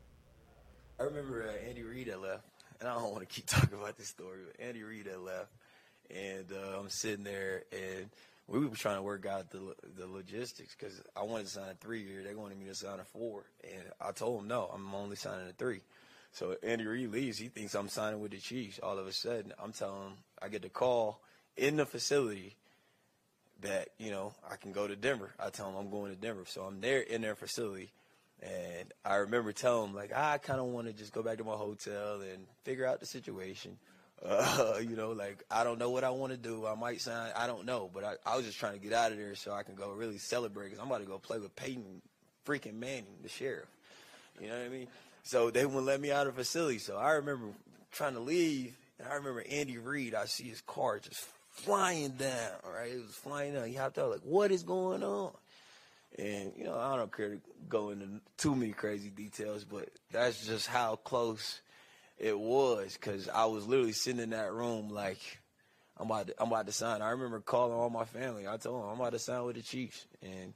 I remember Andy Reid had left, and I don't want to keep talking about this story, but Andy Reid had left, and I'm sitting there, and we were trying to work out the logistics, because I wanted to sign a 3-year. They wanted me to sign a 4. And I told them, no, I'm only signing a 3. So Andy Reid leaves. He thinks I'm signing with the Chiefs. All of a sudden, I'm telling him, I get the call in the facility that, you know, I can go to Denver. I tell him I'm going to Denver. So I'm there in their facility. And I remember telling him, like, I kind of want to just go back to my hotel and figure out the situation. You know, like, I don't know what I want to do. I might sign. I don't know. But I was just trying to get out of there so I can go really celebrate, because I'm about to go play with Peyton freaking Manning, the sheriff. You know what I mean? So they wouldn't let me out of the facility. So I remember trying to leave, and I remember Andy Reid, I see his car just flying down, right? It was flying down. He hopped out like, what is going on? And, you know, I don't care to go into too many crazy details, but that's just how close it was, because I was literally sitting in that room like, I'm about to sign. I remember calling all my family. I told them I'm about to sign with the Chiefs, and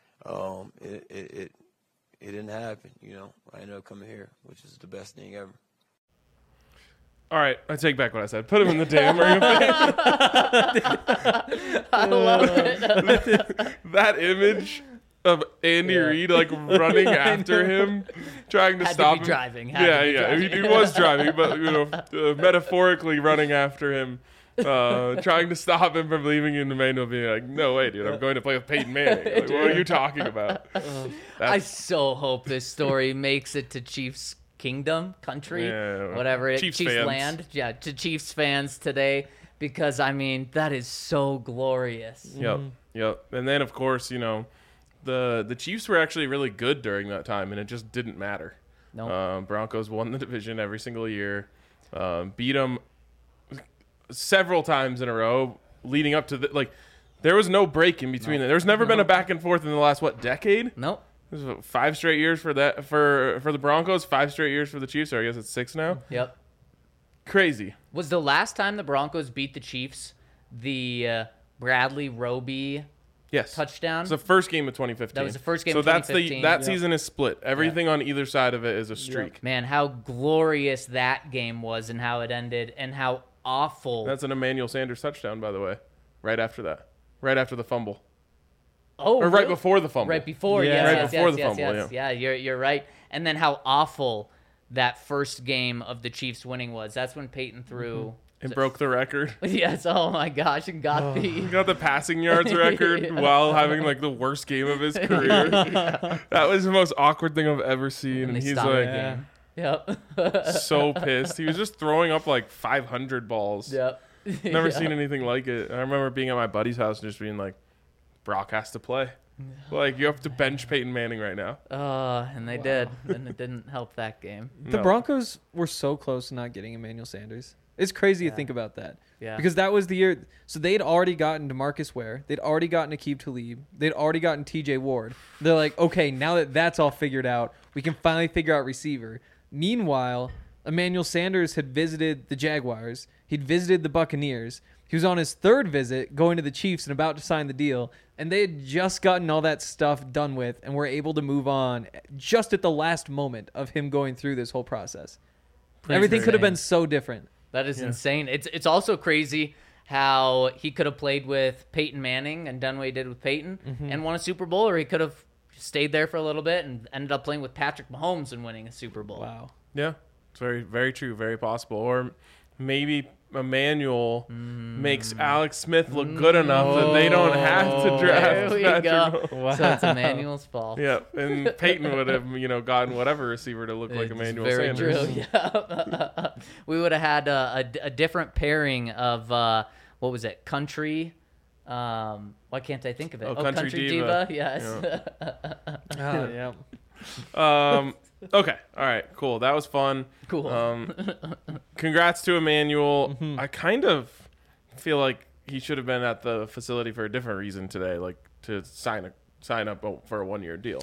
it didn't happen. You know, I ended up coming here, which is the best thing ever. All right, I take back what I said. Put him in the damn ring of fame. I love it. That image of Andy Reid like running after him, trying to Had to stop be him. driving. Had to be driving. He was driving, but metaphorically running after him, trying to stop him from leaving in Emmanuel, being like, "No way, dude, I'm going to play with Peyton Manning. Like, what are you talking about?" I so hope this story makes it to Chiefs Kingdom, country, Yeah, whatever it Chiefs Chiefs fans. land. Yeah, to Chiefs fans today, because I mean that is so glorious. Yep. And then of course, the Chiefs were actually really good during that time, and it just didn't matter. Nope. Broncos won the division every single year, beat them several times in a row, leading up to there was no break in between. There's never been a back and forth in the last decade. Nope. This is 5 straight years for the Broncos, 5 straight years for the Chiefs. Or I guess it's 6 now. Yep. Crazy. Was the last time the Broncos beat the Chiefs the Bradley Roby Yes. touchdown? It's the first game of 2015. That was the first game so of that's 2015. that season is split. Everything on either side of it is a streak. Man, how glorious that game was and how it ended and how awful. That's an Emmanuel Sanders touchdown, by the way. Right after that. Right after the fumble. Oh, Or right really? before the fumble. Right before, Yeah. yes, Right yes, before yes, the yes, fumble, yes. Yeah, you're right. And then how awful that first game of the Chiefs winning was. That's when Peyton threw. And broke the record. Yes, oh my gosh, and got He got the passing yards record while having the worst game of his career. That was the most awkward thing I've ever seen. and And they he's stopped the like game. Yep. so pissed. He was just throwing up 500 balls. Yep. Never Yeah. seen anything like it. I remember being at my buddy's house and just being like, Brock has to play. You have to bench Peyton Manning right now. And they did, and it didn't help that game. The No. Broncos were so close to not getting Emmanuel Sanders. It's crazy to think about that. Yeah. Because that was the year. So they'd already gotten DeMarcus Ware. They'd already gotten Aqib Talib. They'd already gotten TJ Ward. They're like, okay, now that that's all figured out, we can finally figure out receiver. Meanwhile, Emmanuel Sanders had visited the Jaguars. He'd visited the Buccaneers. He was on his 3rd visit going to the Chiefs and about to sign the deal. And they had just gotten all that stuff done with and were able to move on just at the last moment of him going through this whole process. Everything could have been so different. That is insane. It's also crazy how he could have played with Peyton Manning and done what he did with Peyton and won a Super Bowl, or he could have stayed there for a little bit and ended up playing with Patrick Mahomes and winning a Super Bowl. Wow. Yeah, it's very, very true, very possible. Or maybe Emmanuel makes Alex Smith look good enough that they don't have to draft There we Patrick go. Mahomes. So it's Emmanuel's fault. Yeah, and Peyton would have, gotten whatever receiver to look like It's Emmanuel very Sanders. true. Yeah. We would have had a different pairing of what was it? Country. Why can't I think of it? Oh, Country Diva. Diva. Yes. Yeah. Okay, all right, cool. That was fun. Cool. Congrats to Emmanuel. Mm-hmm. I kind of feel like he should have been at the facility for a different reason today, like to sign up for a 1-year deal.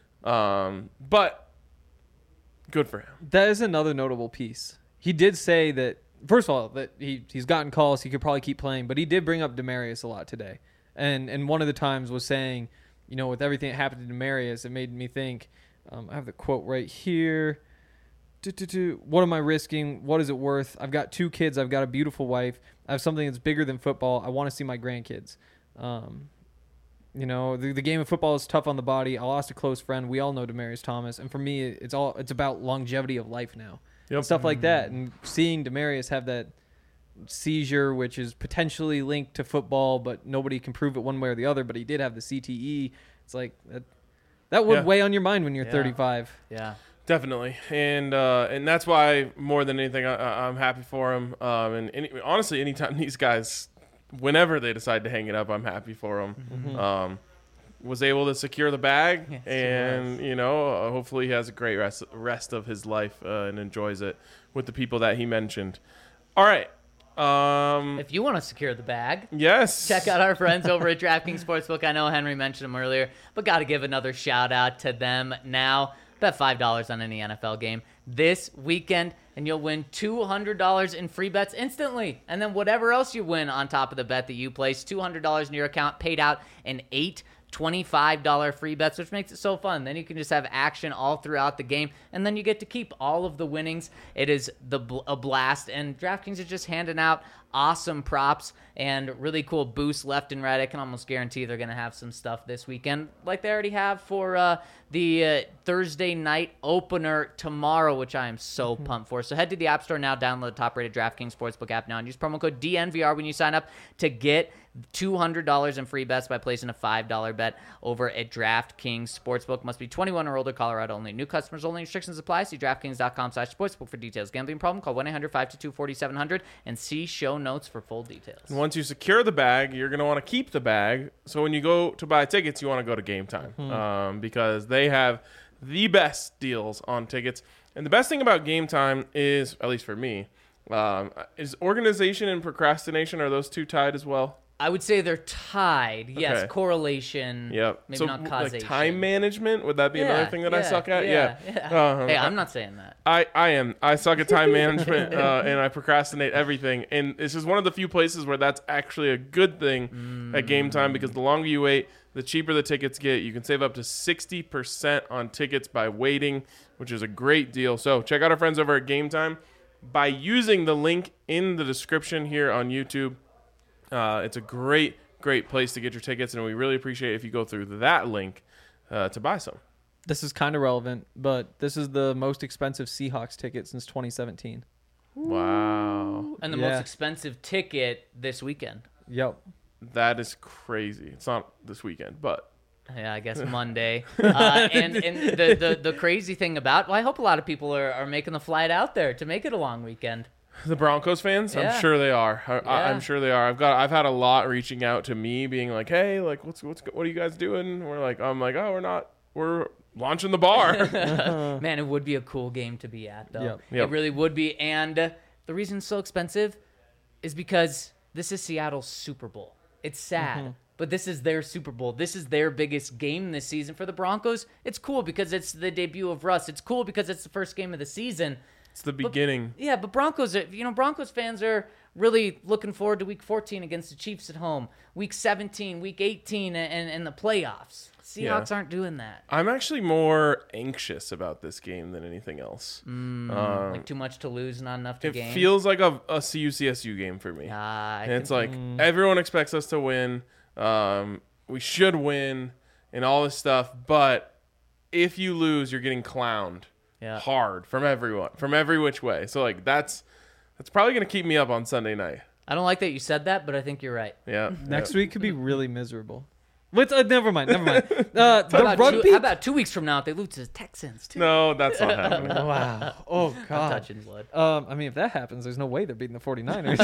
But good for him. That is another notable piece. He did say that, first of all, that he's gotten calls. He could probably keep playing, but he did bring up Demaryius a lot today. And one of the times was saying, with everything that happened to Demaryius, it made me think, I have the quote right here. What am I risking? What is it worth? I've got 2 kids. I've got a beautiful wife. I have something that's bigger than football. I want to see my grandkids. The game of football is tough on the body. I lost a close friend. We all know Demaryius Thomas. And for me, it's about longevity of life now. Yep. Stuff like that. And seeing Demaryius have that seizure, which is potentially linked to football, but nobody can prove it one way or the other, but he did have the CTE. It's like that would weigh on your mind when you're 35. Yeah. Definitely, and that's why more than anything, I'm happy for him. Honestly, anytime these guys, whenever they decide to hang it up, I'm happy for them. Was able to secure the bag, Yes, and hopefully he has a great rest of his life and enjoys it with the people that he mentioned. All right. If you want to secure the bag, Yes. check out our friends over at DraftKings Sportsbook. I know Henry mentioned them earlier, but got to give another shout out to them now. Bet $5 on any NFL game this weekend, and you'll win $200 in free bets instantly. And then whatever else you win on top of the bet that you place, $200 in your account paid out in 8 $25 free bets, which makes it so fun. Then you can just have action all throughout the game, and then you get to keep all of the winnings. It is a blast, and DraftKings is just handing out awesome props and really cool boosts left and right. I can almost guarantee they're going to have some stuff this weekend like they already have for the Thursday night opener tomorrow, which I am so pumped for. So head to the App Store now, download the top-rated DraftKings Sportsbook app now, and use promo code DNVR when you sign up to get $200 in free bets by placing a $5 bet over at DraftKings Sportsbook. Must be 21 or older, Colorado only. New customers only. Restrictions apply. See DraftKings.com/sportsbook for details. Gambling problem? Call 1-800-522-4700 and see show notes for full details. And once you secure the bag, you're going to want to keep the bag. So when you go to buy tickets, you want to go to Game Time because they have the best deals on tickets. And the best thing about Game Time is, at least for me, is organization and procrastination. Are those two tied as well? I would say they're tied. Yes, Okay. correlation. Yep. Maybe So not causation. like time management, would that be another thing that I suck at? Yeah. Hey, I'm I not saying that. am. I suck at time management and I procrastinate everything. And this is one of the few places where that's actually a good thing at Game Time because the longer you wait, the cheaper the tickets get. You can save up to 60% on tickets by waiting, which is a great deal. So check out our friends over at Game Time by using the link in the description here on YouTube. It's a great place to get your tickets, and we really appreciate it if you go through that link to buy some. This is kind of relevant, but this is the most expensive Seahawks ticket since 2017. Wow. And the most expensive ticket this weekend. Yep. That is crazy. It's not this weekend, but Yeah, I guess Monday. And the crazy thing about, well, I hope a lot of people are making the flight out there to make it a long weekend. the Broncos fans, Yeah. I'm sure they are. Yeah. I'm sure they are. I've had a lot reaching out to me, being like, "Hey, like, what are you guys doing?" I'm like, "Oh, we're launching the bar." Man, it would be a cool game to be at, though. Yep. It really would be. And the reason it's so expensive is because this is Seattle's Super Bowl. It's sad, but this is their Super Bowl. This is their biggest game this season. For the Broncos, it's cool because it's the debut of Russ. It's cool because it's the first game of the season. It's the beginning. Yeah, but Broncos fans are really looking forward to Week 14 against the Chiefs at home, Week 17, Week 18, and the playoffs. Seahawks aren't doing that. I'm actually more anxious about this game than anything else. Like too much to lose, not enough to It gain. feels like a CU-CSU game for me. And it's like everyone expects us to win. We should win and all this stuff. But if you lose, you're getting clowned hard from everyone, from every which way. So like that's probably going to keep me up on Sunday night. I don't like that you said that, but I think you're right. Yeah. Next week could be really miserable. Wait, never mind. How about 2 weeks from now if they lose to the Texans, too? No, that's not happening. Wow. Oh, I'm God. touching blood. I mean, if that happens, there's no way they're beating the 49ers.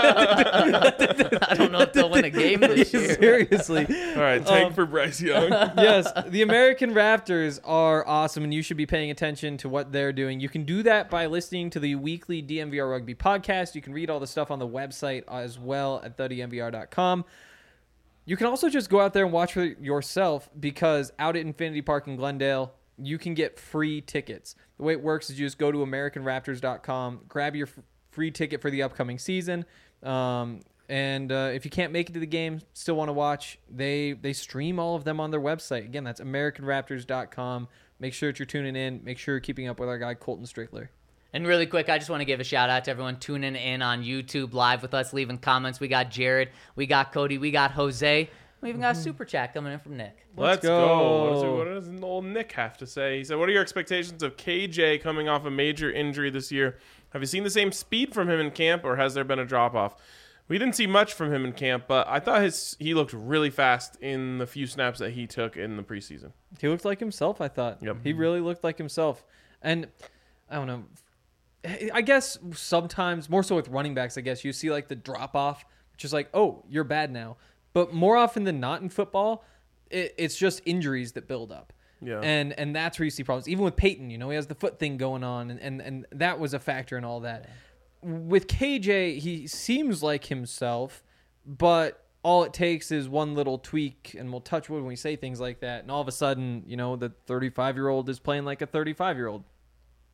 I don't know if they'll win a game this year. Seriously. All right, tank for Bryce Young. Yes, the American Raptors are awesome, and you should be paying attention to what they're doing. You can do that by listening to the weekly DNVR Rugby podcast. You can read all the stuff on the website as well at thednvr.com. You can also just go out there and watch for yourself because out at Infinity Park in Glendale, you can get free tickets. The way it works is you just go to AmericanRaptors.com, grab your free ticket for the upcoming season, and if you can't make it to the game, still want to watch, they stream all of them on their website. Again, that's AmericanRaptors.com. Make sure that you're tuning in. Make sure you're keeping up with our guy Colton Strickler. And really quick, I just want to give a shout out to everyone tuning in on YouTube live with us, leaving comments. We got Jared, we got Cody, we got Jose. We even got a super chat coming in from Nick. Let's go. What does old Nick have to say? He said, "What are your expectations of KJ coming off a major injury this year? Have you seen the same speed from him in camp, or has there been a drop-off?" We didn't see much from him in camp, but I thought he looked really fast in the few snaps that he took in the preseason. He looked like himself, I thought. Yep. He really looked like himself. And I don't know. I guess sometimes, more so with running backs, I guess, you see like the drop-off, which is like, oh, you're bad now. But more often than not in football, it's just injuries that build up. Yeah. And that's where you see problems. Even with Peyton, he has the foot thing going on, and that was a factor in all that. With KJ, he seems like himself, but all it takes is one little tweak, and we'll touch wood when we say things like that, and all of a sudden, the 35-year-old is playing like a 35-year-old.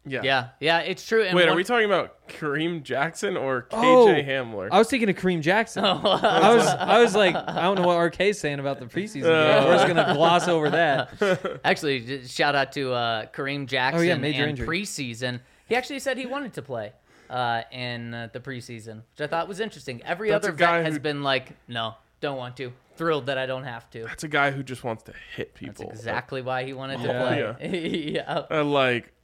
Yeah. Yeah, it's true. And Wait, are one- we talking about Kareem Jackson or KJ Oh, Hamler? I was thinking of Kareem Jackson. I was like, I don't know what RK's saying about the preseason game. We're just gonna gloss over that. Actually, shout out to Kareem Jackson major and injury. preseason. He actually said he wanted to play in the preseason, which I thought was interesting. Every That's other a guy vet has who- been like, no, don't want to. Thrilled that I don't have to. That's a guy who just wants to hit That's people. exactly why he wanted to Yeah. play. Yeah. Like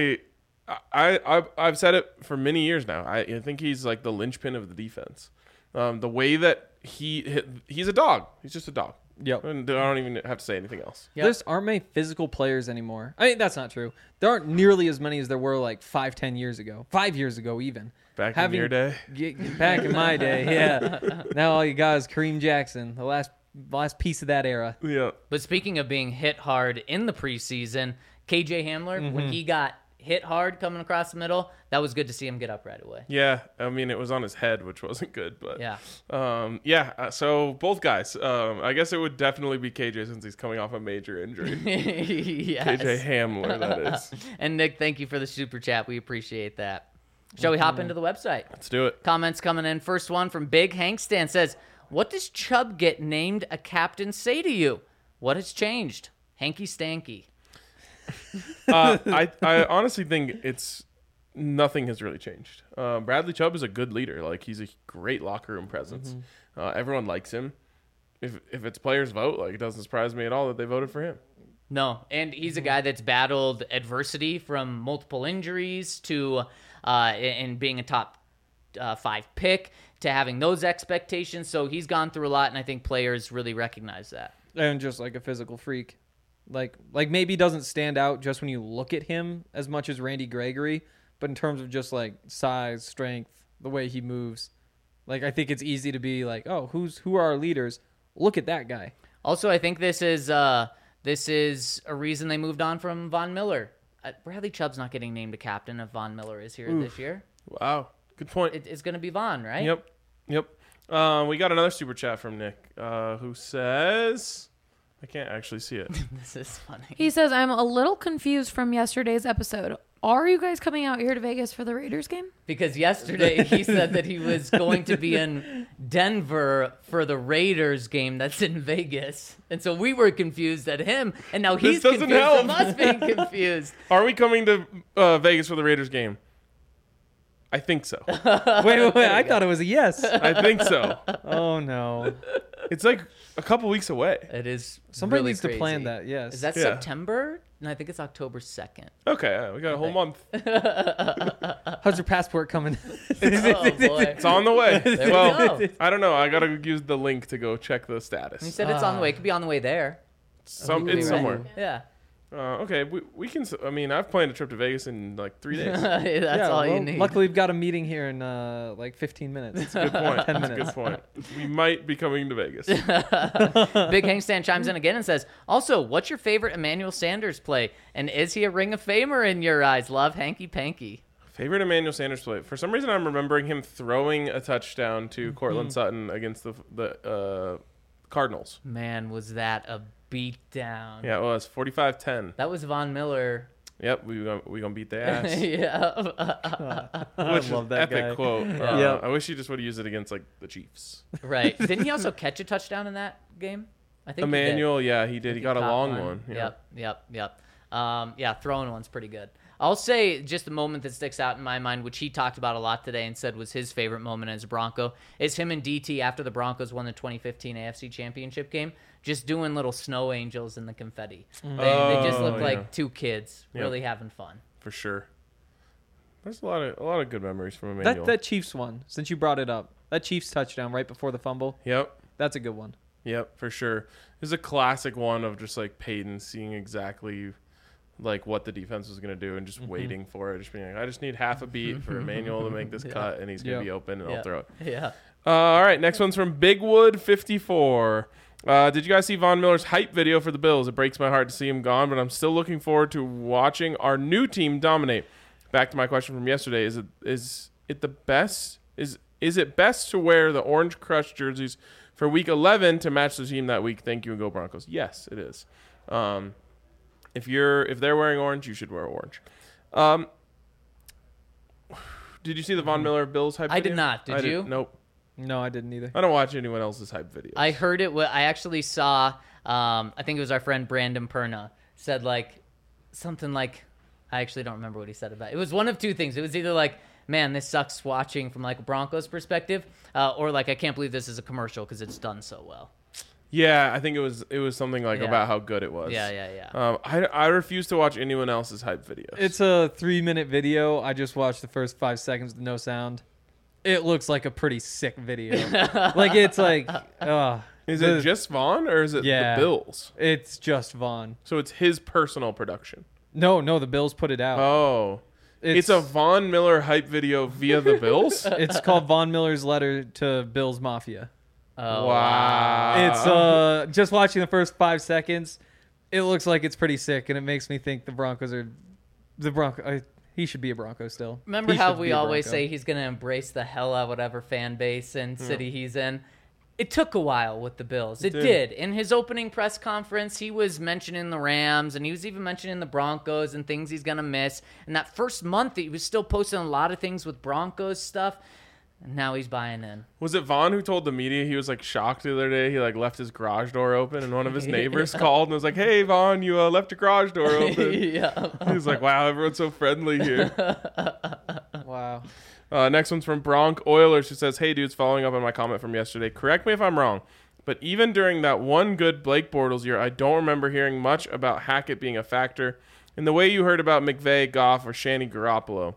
I've said it for many years now. I think he's like the linchpin of the defense. The way that he's a dog. He's just a dog. Yep. And I don't even have to say anything else. Yep. There aren't many physical players anymore. I mean, that's not true. There aren't nearly as many as there were like 5-10 years ago. 5 years ago, even. Back in your day. Back in my day, yeah. Now all you got is Kareem Jackson, the last piece of that era. Yeah. But speaking of being hit hard in the preseason, KJ Hamler, when he got hit hard coming across the middle, that was good to see him get up right away. Yeah. I mean, it was on his head, which wasn't good, but Yeah. So both guys. I guess it would definitely be KJ since he's coming off a major injury. Yes. KJ Hamler, that is. And Nick, thank you for the super chat. We appreciate that. Shall we hop into the website? Let's do it. Comments coming in. First one from Big Hank Stan says, "What does Chubb get named a captain say to you? What has changed? Hanky Stanky." I honestly think nothing has really changed. Bradley Chubb is a good leader. Like, he's a great locker room presence. Everyone likes him. If it's players vote, like, it doesn't surprise me at all that they voted for him. No, and he's a guy that's battled adversity from multiple injuries to and being a top 5 pick to having those expectations. So he's gone through a lot, and I think players really recognize that. And just like a physical freak. Like maybe doesn't stand out just when you look at him as much as Randy Gregory, but in terms of just like size, strength, the way he moves, like I think it's easy to be like, oh, who are our leaders? Look at that guy. Also, I think this is a reason they moved on from Von Miller. Bradley Chubb's not getting named a captain if Von Miller is here this year. Wow. Good point. It's going to be Von, right? Yep. We got another super chat from Nick who says, I can't actually see it. This is funny. He says, I'm a little confused from yesterday's episode. Are you guys coming out here to Vegas for the Raiders game? Because yesterday he said that he was going to be in Denver for the Raiders game that's in Vegas. And so we were confused at him, and now he's doesn't confused help. from us being confused. Are we coming to Vegas for the Raiders game? I think so. Wait, I thought it was a yes. I think so. Oh no. It's like a couple weeks away. It is Somebody really needs crazy. to plan that, yes. Is that Yeah. September? No, I think it's October 2nd. Okay, we got a whole month. How's your passport coming? Oh, boy. It's on the way. There we well, go. I don't know. I gotta use the link to go check the He status. said it's on the way. It could be on the way there. It's Right. somewhere. Yeah. Okay, we can. I mean, I've planned a trip to Vegas in like 3 days. That's all you need. Luckily, we've got a meeting here in like 15 minutes. Good point. 10 That's a minutes. good point. We might be coming to Vegas. Big Hank Stan chimes in again and says, also, what's your favorite Emmanuel Sanders play? And is he a Ring of Famer in your eyes? Love, Hanky Panky. Favorite Emmanuel Sanders play. For some reason, I'm remembering him throwing a touchdown to Cortland Sutton against the Cardinals. Man, was that a beatdown. Yeah, it was 45-10. That was Von Miller. Yep, we gonna beat their ass. Yeah. Which is love that epic guy. quote. Yep. I wish he just would have used it against like the Chiefs. Right. Didn't he also catch a touchdown in that game? I think Emmanuel, yeah, he did. He got a caught long one. Yeah. Yep. Yeah, throwing one's pretty good. I'll say just a moment that sticks out in my mind, which he talked about a lot today and said was his favorite moment as a Bronco, is him and DT after the Broncos won the 2015 AFC Championship game, just doing little snow angels in the confetti. They just look yeah. like two kids Yeah. really having fun. For sure. There's a lot of good memories from Emmanuel. That Chiefs one, since you brought it up, that Chiefs touchdown right before the fumble, Yep. that's a good one. Yep, for sure. There's a classic one of just like Peyton seeing exactly like what the defense was going to do and just waiting for it. Just being like, I just need half a beat for Emmanuel to make this cut and he's going to be open and I'll throw it. Yeah. All right, next one's from Bigwood54. Did you guys see Von Miller's hype video for the Bills? It breaks my heart to see him gone, but I'm still looking forward to watching our new team dominate. Back to my question from yesterday: Is it the best? Is it best to wear the Orange Crush jerseys for Week 11 to match the team that week? Thank you and go Broncos. Yes, it is. If they're wearing orange, you should wear orange. Did you see the Von Miller Bills hype? I video? did not. Did you? Nope. No, I didn't either. I don't watch anyone else's hype videos. I heard it. I actually saw. I think it was our friend Brandon Perna said like something like. I actually don't remember what he said about it. It was one of two things. It was either like, man, this sucks watching from like a Broncos perspective, or like I can't believe this is a commercial because it's done so well. Yeah, I think it was something like Yeah. about how good it was. Yeah. I refuse to watch anyone else's hype videos. It's a 3-minute video. I just watched the first 5 seconds with no sound. It looks like a pretty sick video. Like it's like, Is it just Vaughn or is it Yeah. the Bills? It's just Vaughn. So it's his personal production. No, the Bills put it out. Oh. It's a Von Miller hype video via the Bills? It's called Von Miller's letter to Bills Mafia. Oh, Wow. It's just watching the first 5 seconds. It looks like it's pretty sick, and it makes me think the Broncos are the Bronco. He should be a Bronco still. Remember He how should we be a always Bronco. say he's going to embrace the hell out of whatever fan base and city he's in? It took a while with the Bills. It did. In his opening press conference, he was mentioning the Rams, and he was even mentioning the Broncos and things he's going to miss. And that first month, he was still posting a lot of things with Broncos stuff. And now he's buying in. Was it Vaughn who told the media he was like shocked the other day? He like left his garage door open and one of his neighbors called and was like, "Hey Vaughn, you left your garage door open." Yeah. He was like, "Wow, everyone's so friendly here." Wow. Next one's from Bronc Oilers, who says, "Hey dudes, following up on my comment from yesterday. Correct me if I'm wrong, but even during that one good Blake Bortles year, I don't remember hearing much about Hackett being a factor in the way you heard about McVay, Goff, or Shanny Garoppolo.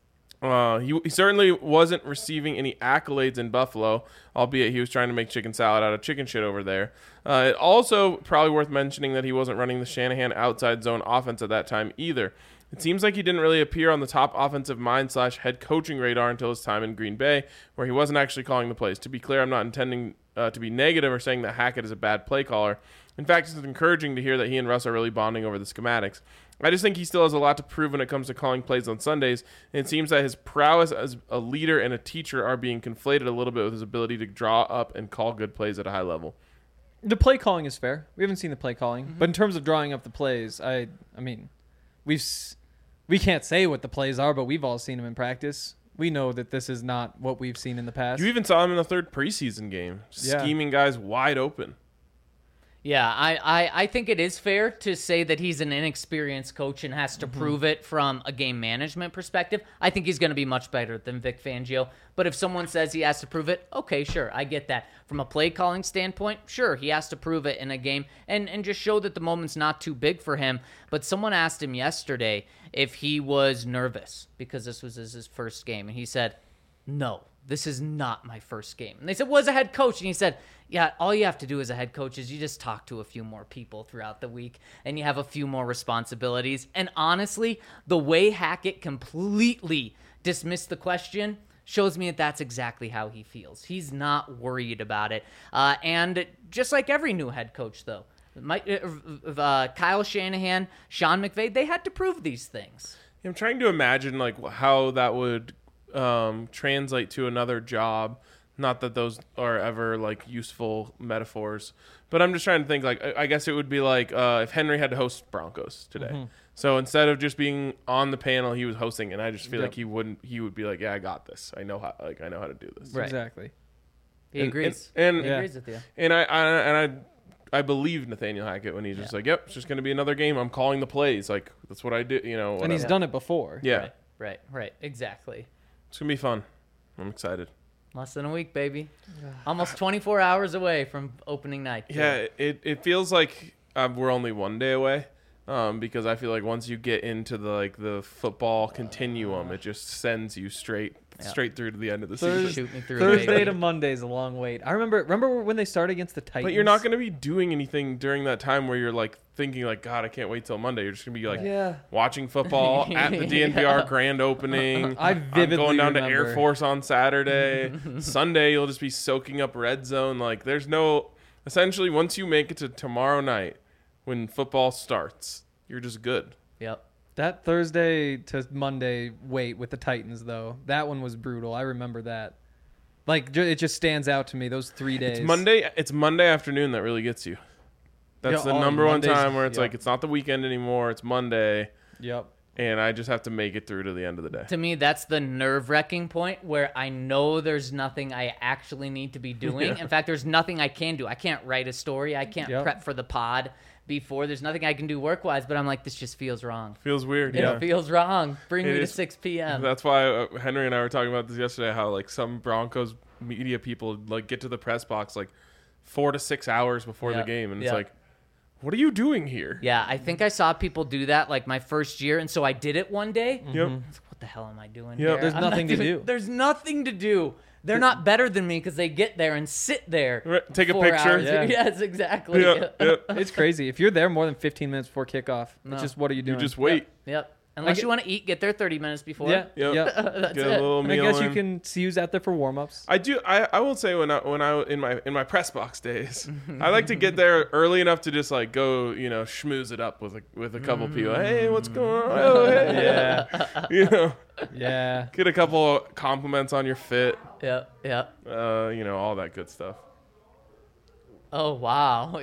He certainly wasn't receiving any accolades in Buffalo, albeit he was trying to make chicken salad out of chicken shit over there. It also probably worth mentioning that he wasn't running the Shanahan outside zone offense at that time either. It seems like he didn't really appear on the top offensive mind / head coaching radar until his time in Green Bay, where he wasn't actually calling the plays. To be clear, I'm not intending to be negative or saying that Hackett is a bad play caller. In fact, it's encouraging to hear that he and Russ are really bonding over the schematics. I just think he still has a lot to prove when it comes to calling plays on Sundays, and it seems that his prowess as a leader and a teacher are being conflated a little bit with his ability to draw up and call good plays at a high level. The play calling is fair. We haven't seen the play calling, but in terms of drawing up the plays, I mean, we can't say what the plays are, but we've all seen them in practice. We know that this is not what we've seen in the past. You even saw him in the third preseason game, Yeah. scheming guys wide open. Yeah, I think it is fair to say that he's an inexperienced coach and has to prove it from a game management perspective. I think he's going to be much better than Vic Fangio. But if someone says he has to prove it, okay, sure, I get that. From a play calling standpoint, sure, he has to prove it in a game and just show that the moment's not too big for him. But someone asked him yesterday if he was nervous because this was his first game. And he said, no, this is not my first game. And they said, well, as a head coach. And he said, yeah, all you have to do as a head coach is you just talk to a few more people throughout the week and you have a few more responsibilities. And honestly, the way Hackett completely dismissed the question shows me that that's exactly how he feels. He's not worried about it. And just like every new head coach, though, Kyle Shanahan, Sean McVay, they had to prove these things. I'm trying to imagine like how that would translate to another job. Not that those are ever like useful metaphors, but I'm just trying to think like I guess it would be like if Henry had to host Broncos today. So instead of just being on the panel, he was hosting, and I just feel like he would be like, yeah, I got this. I know how to do this. Right. Exactly. He agrees. And He agrees with you. And I believe Nathaniel Hackett when he's just like, yep, it's just going to be another game. I'm calling the plays. Like that's what I do. You know, And he's whatever. done it before. Yeah, Right. Exactly. it's gonna be fun. I'm excited. Less than a week, baby. Almost 24 hours away from opening night. Yeah, it feels like we're only one day away, because I feel like once you get into the football continuum, it just sends you straight through to the end of the season. Shoot me through, Thursday baby. to Monday is a long wait. I remember when they started against the Titans. But you're not going to be doing anything during that time where you're like thinking like, God, I can't wait till Monday. You're just going to be like watching football at the DNVR grand opening. I I'm vividly going down to remember. Air Force on Saturday. Sunday, you'll just be soaking up red zone. Like there's no, essentially once you make it to tomorrow night when football starts, you're just good. Yep. That Thursday to Monday wait with the Titans, though, that one was brutal. I remember that. Like, it just stands out to me, those 3 days. It's Monday afternoon that really gets you. That's Yeah, the number one Mondays- time where it's yeah. like, it's not the weekend anymore. It's Monday. Yep. and I just have to make it through to the end of the day. To me, that's the nerve-wracking point where I know there's nothing I actually need to be doing. In fact, there's nothing I can do. I can't write a story. I can't prep for the pod before. There's nothing I can do work-wise, but I'm like, this just feels wrong. Feels weird. It feels wrong. Bring It me is. to 6 p.m. That's why Henry and I were talking about this yesterday, how like some Broncos media people like get to the press box like 4 to 6 hours before the game, and it's like, what are you doing here? Yeah, I think I saw people do that like my first year, and so I did it one day. Yep. I was like, what the hell am I doing Yep. here? There's I'm not nothing to doing- do. There's nothing to do. They're not better than me because they get there and sit there. Right, take a 4 picture. hours. Yeah. Yes, exactly. Yep, yep. It's crazy. If you're there more than 15 minutes before kickoff, No. it's just what are you You doing? just wait. Yep. Unless get- you want to eat, get there 30 minutes before. Yeah. Yep. Yeah. That's Get a it. little And I meal guess you in. can see who's out there for warm-ups. I do. I will say when I in my press box days, I like to get there early enough to just like go, schmooze it up with a couple people. Hey, what's going on? Oh, hey. Yeah. Yeah. Get a couple compliments on your fit. Yep. Yep. All that good stuff. Oh, wow.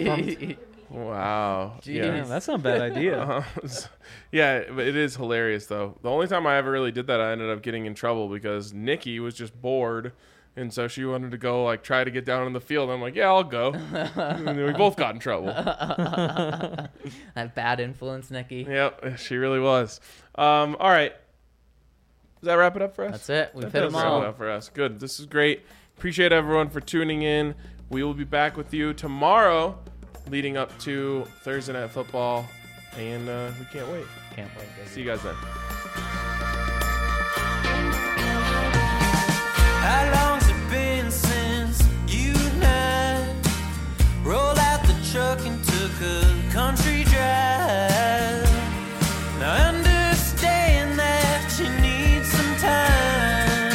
Wow. Jeez. Yeah, that's not a bad idea. Yeah, but it is hilarious though. The only time I ever really did that, I ended up getting in trouble because Nikki was just bored, and so she wanted to go like try to get down in the field. I'm like, yeah, I'll go. And then we both got in trouble. That bad influence, Nikki. Yep, she really was. All right. Does that wrap it up for us? That's it. We've That hit does them wrap all. it up for us. Good. This is great. Appreciate everyone for tuning in. We will be back with you tomorrow, leading up to Thursday Night Football, and we can't wait. Can't wait, baby. See you guys then. How long's it been since you and I rolled out the truck and took a country drive? Now I understand that you need some time.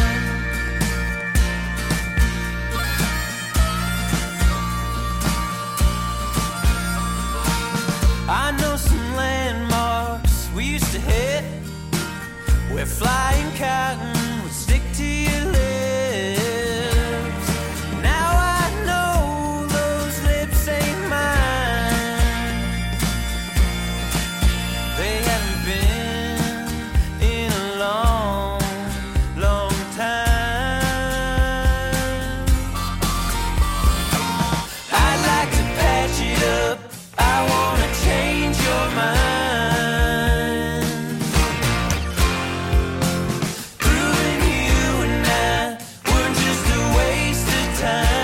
I know some landmarks we used to hit where flying cotton would stick to your lips. Now I know those lips ain't mine. They haven't been in a long, long time. I'd like to patch it up. I wanna change your mind. Proving you and I were just a waste of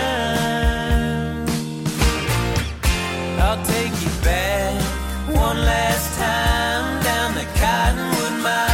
time. I'll take you back one last time down the Cottonwood Mine.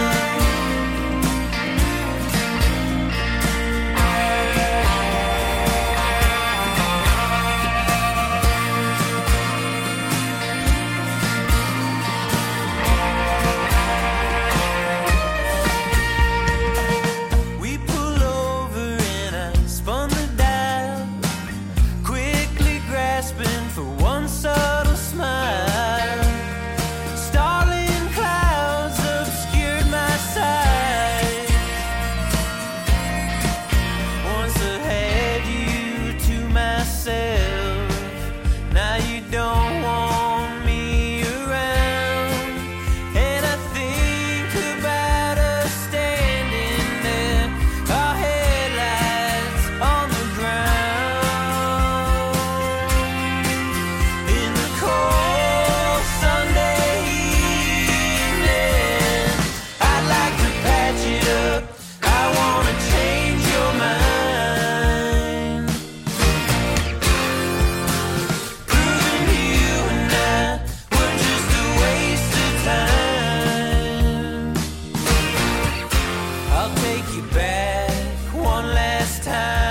We pull over and I spun the dial, quickly grasping for one subtle smile. Starling clouds obscured my sight. Once I had you to myself, now you don't want me around. And I think about us standing there, our headlights on the ground. In the cold Sunday evening, I'd like to patch it up. I wanna change your mind. Proving you and I were just a waste of time. I'll take you back one last time.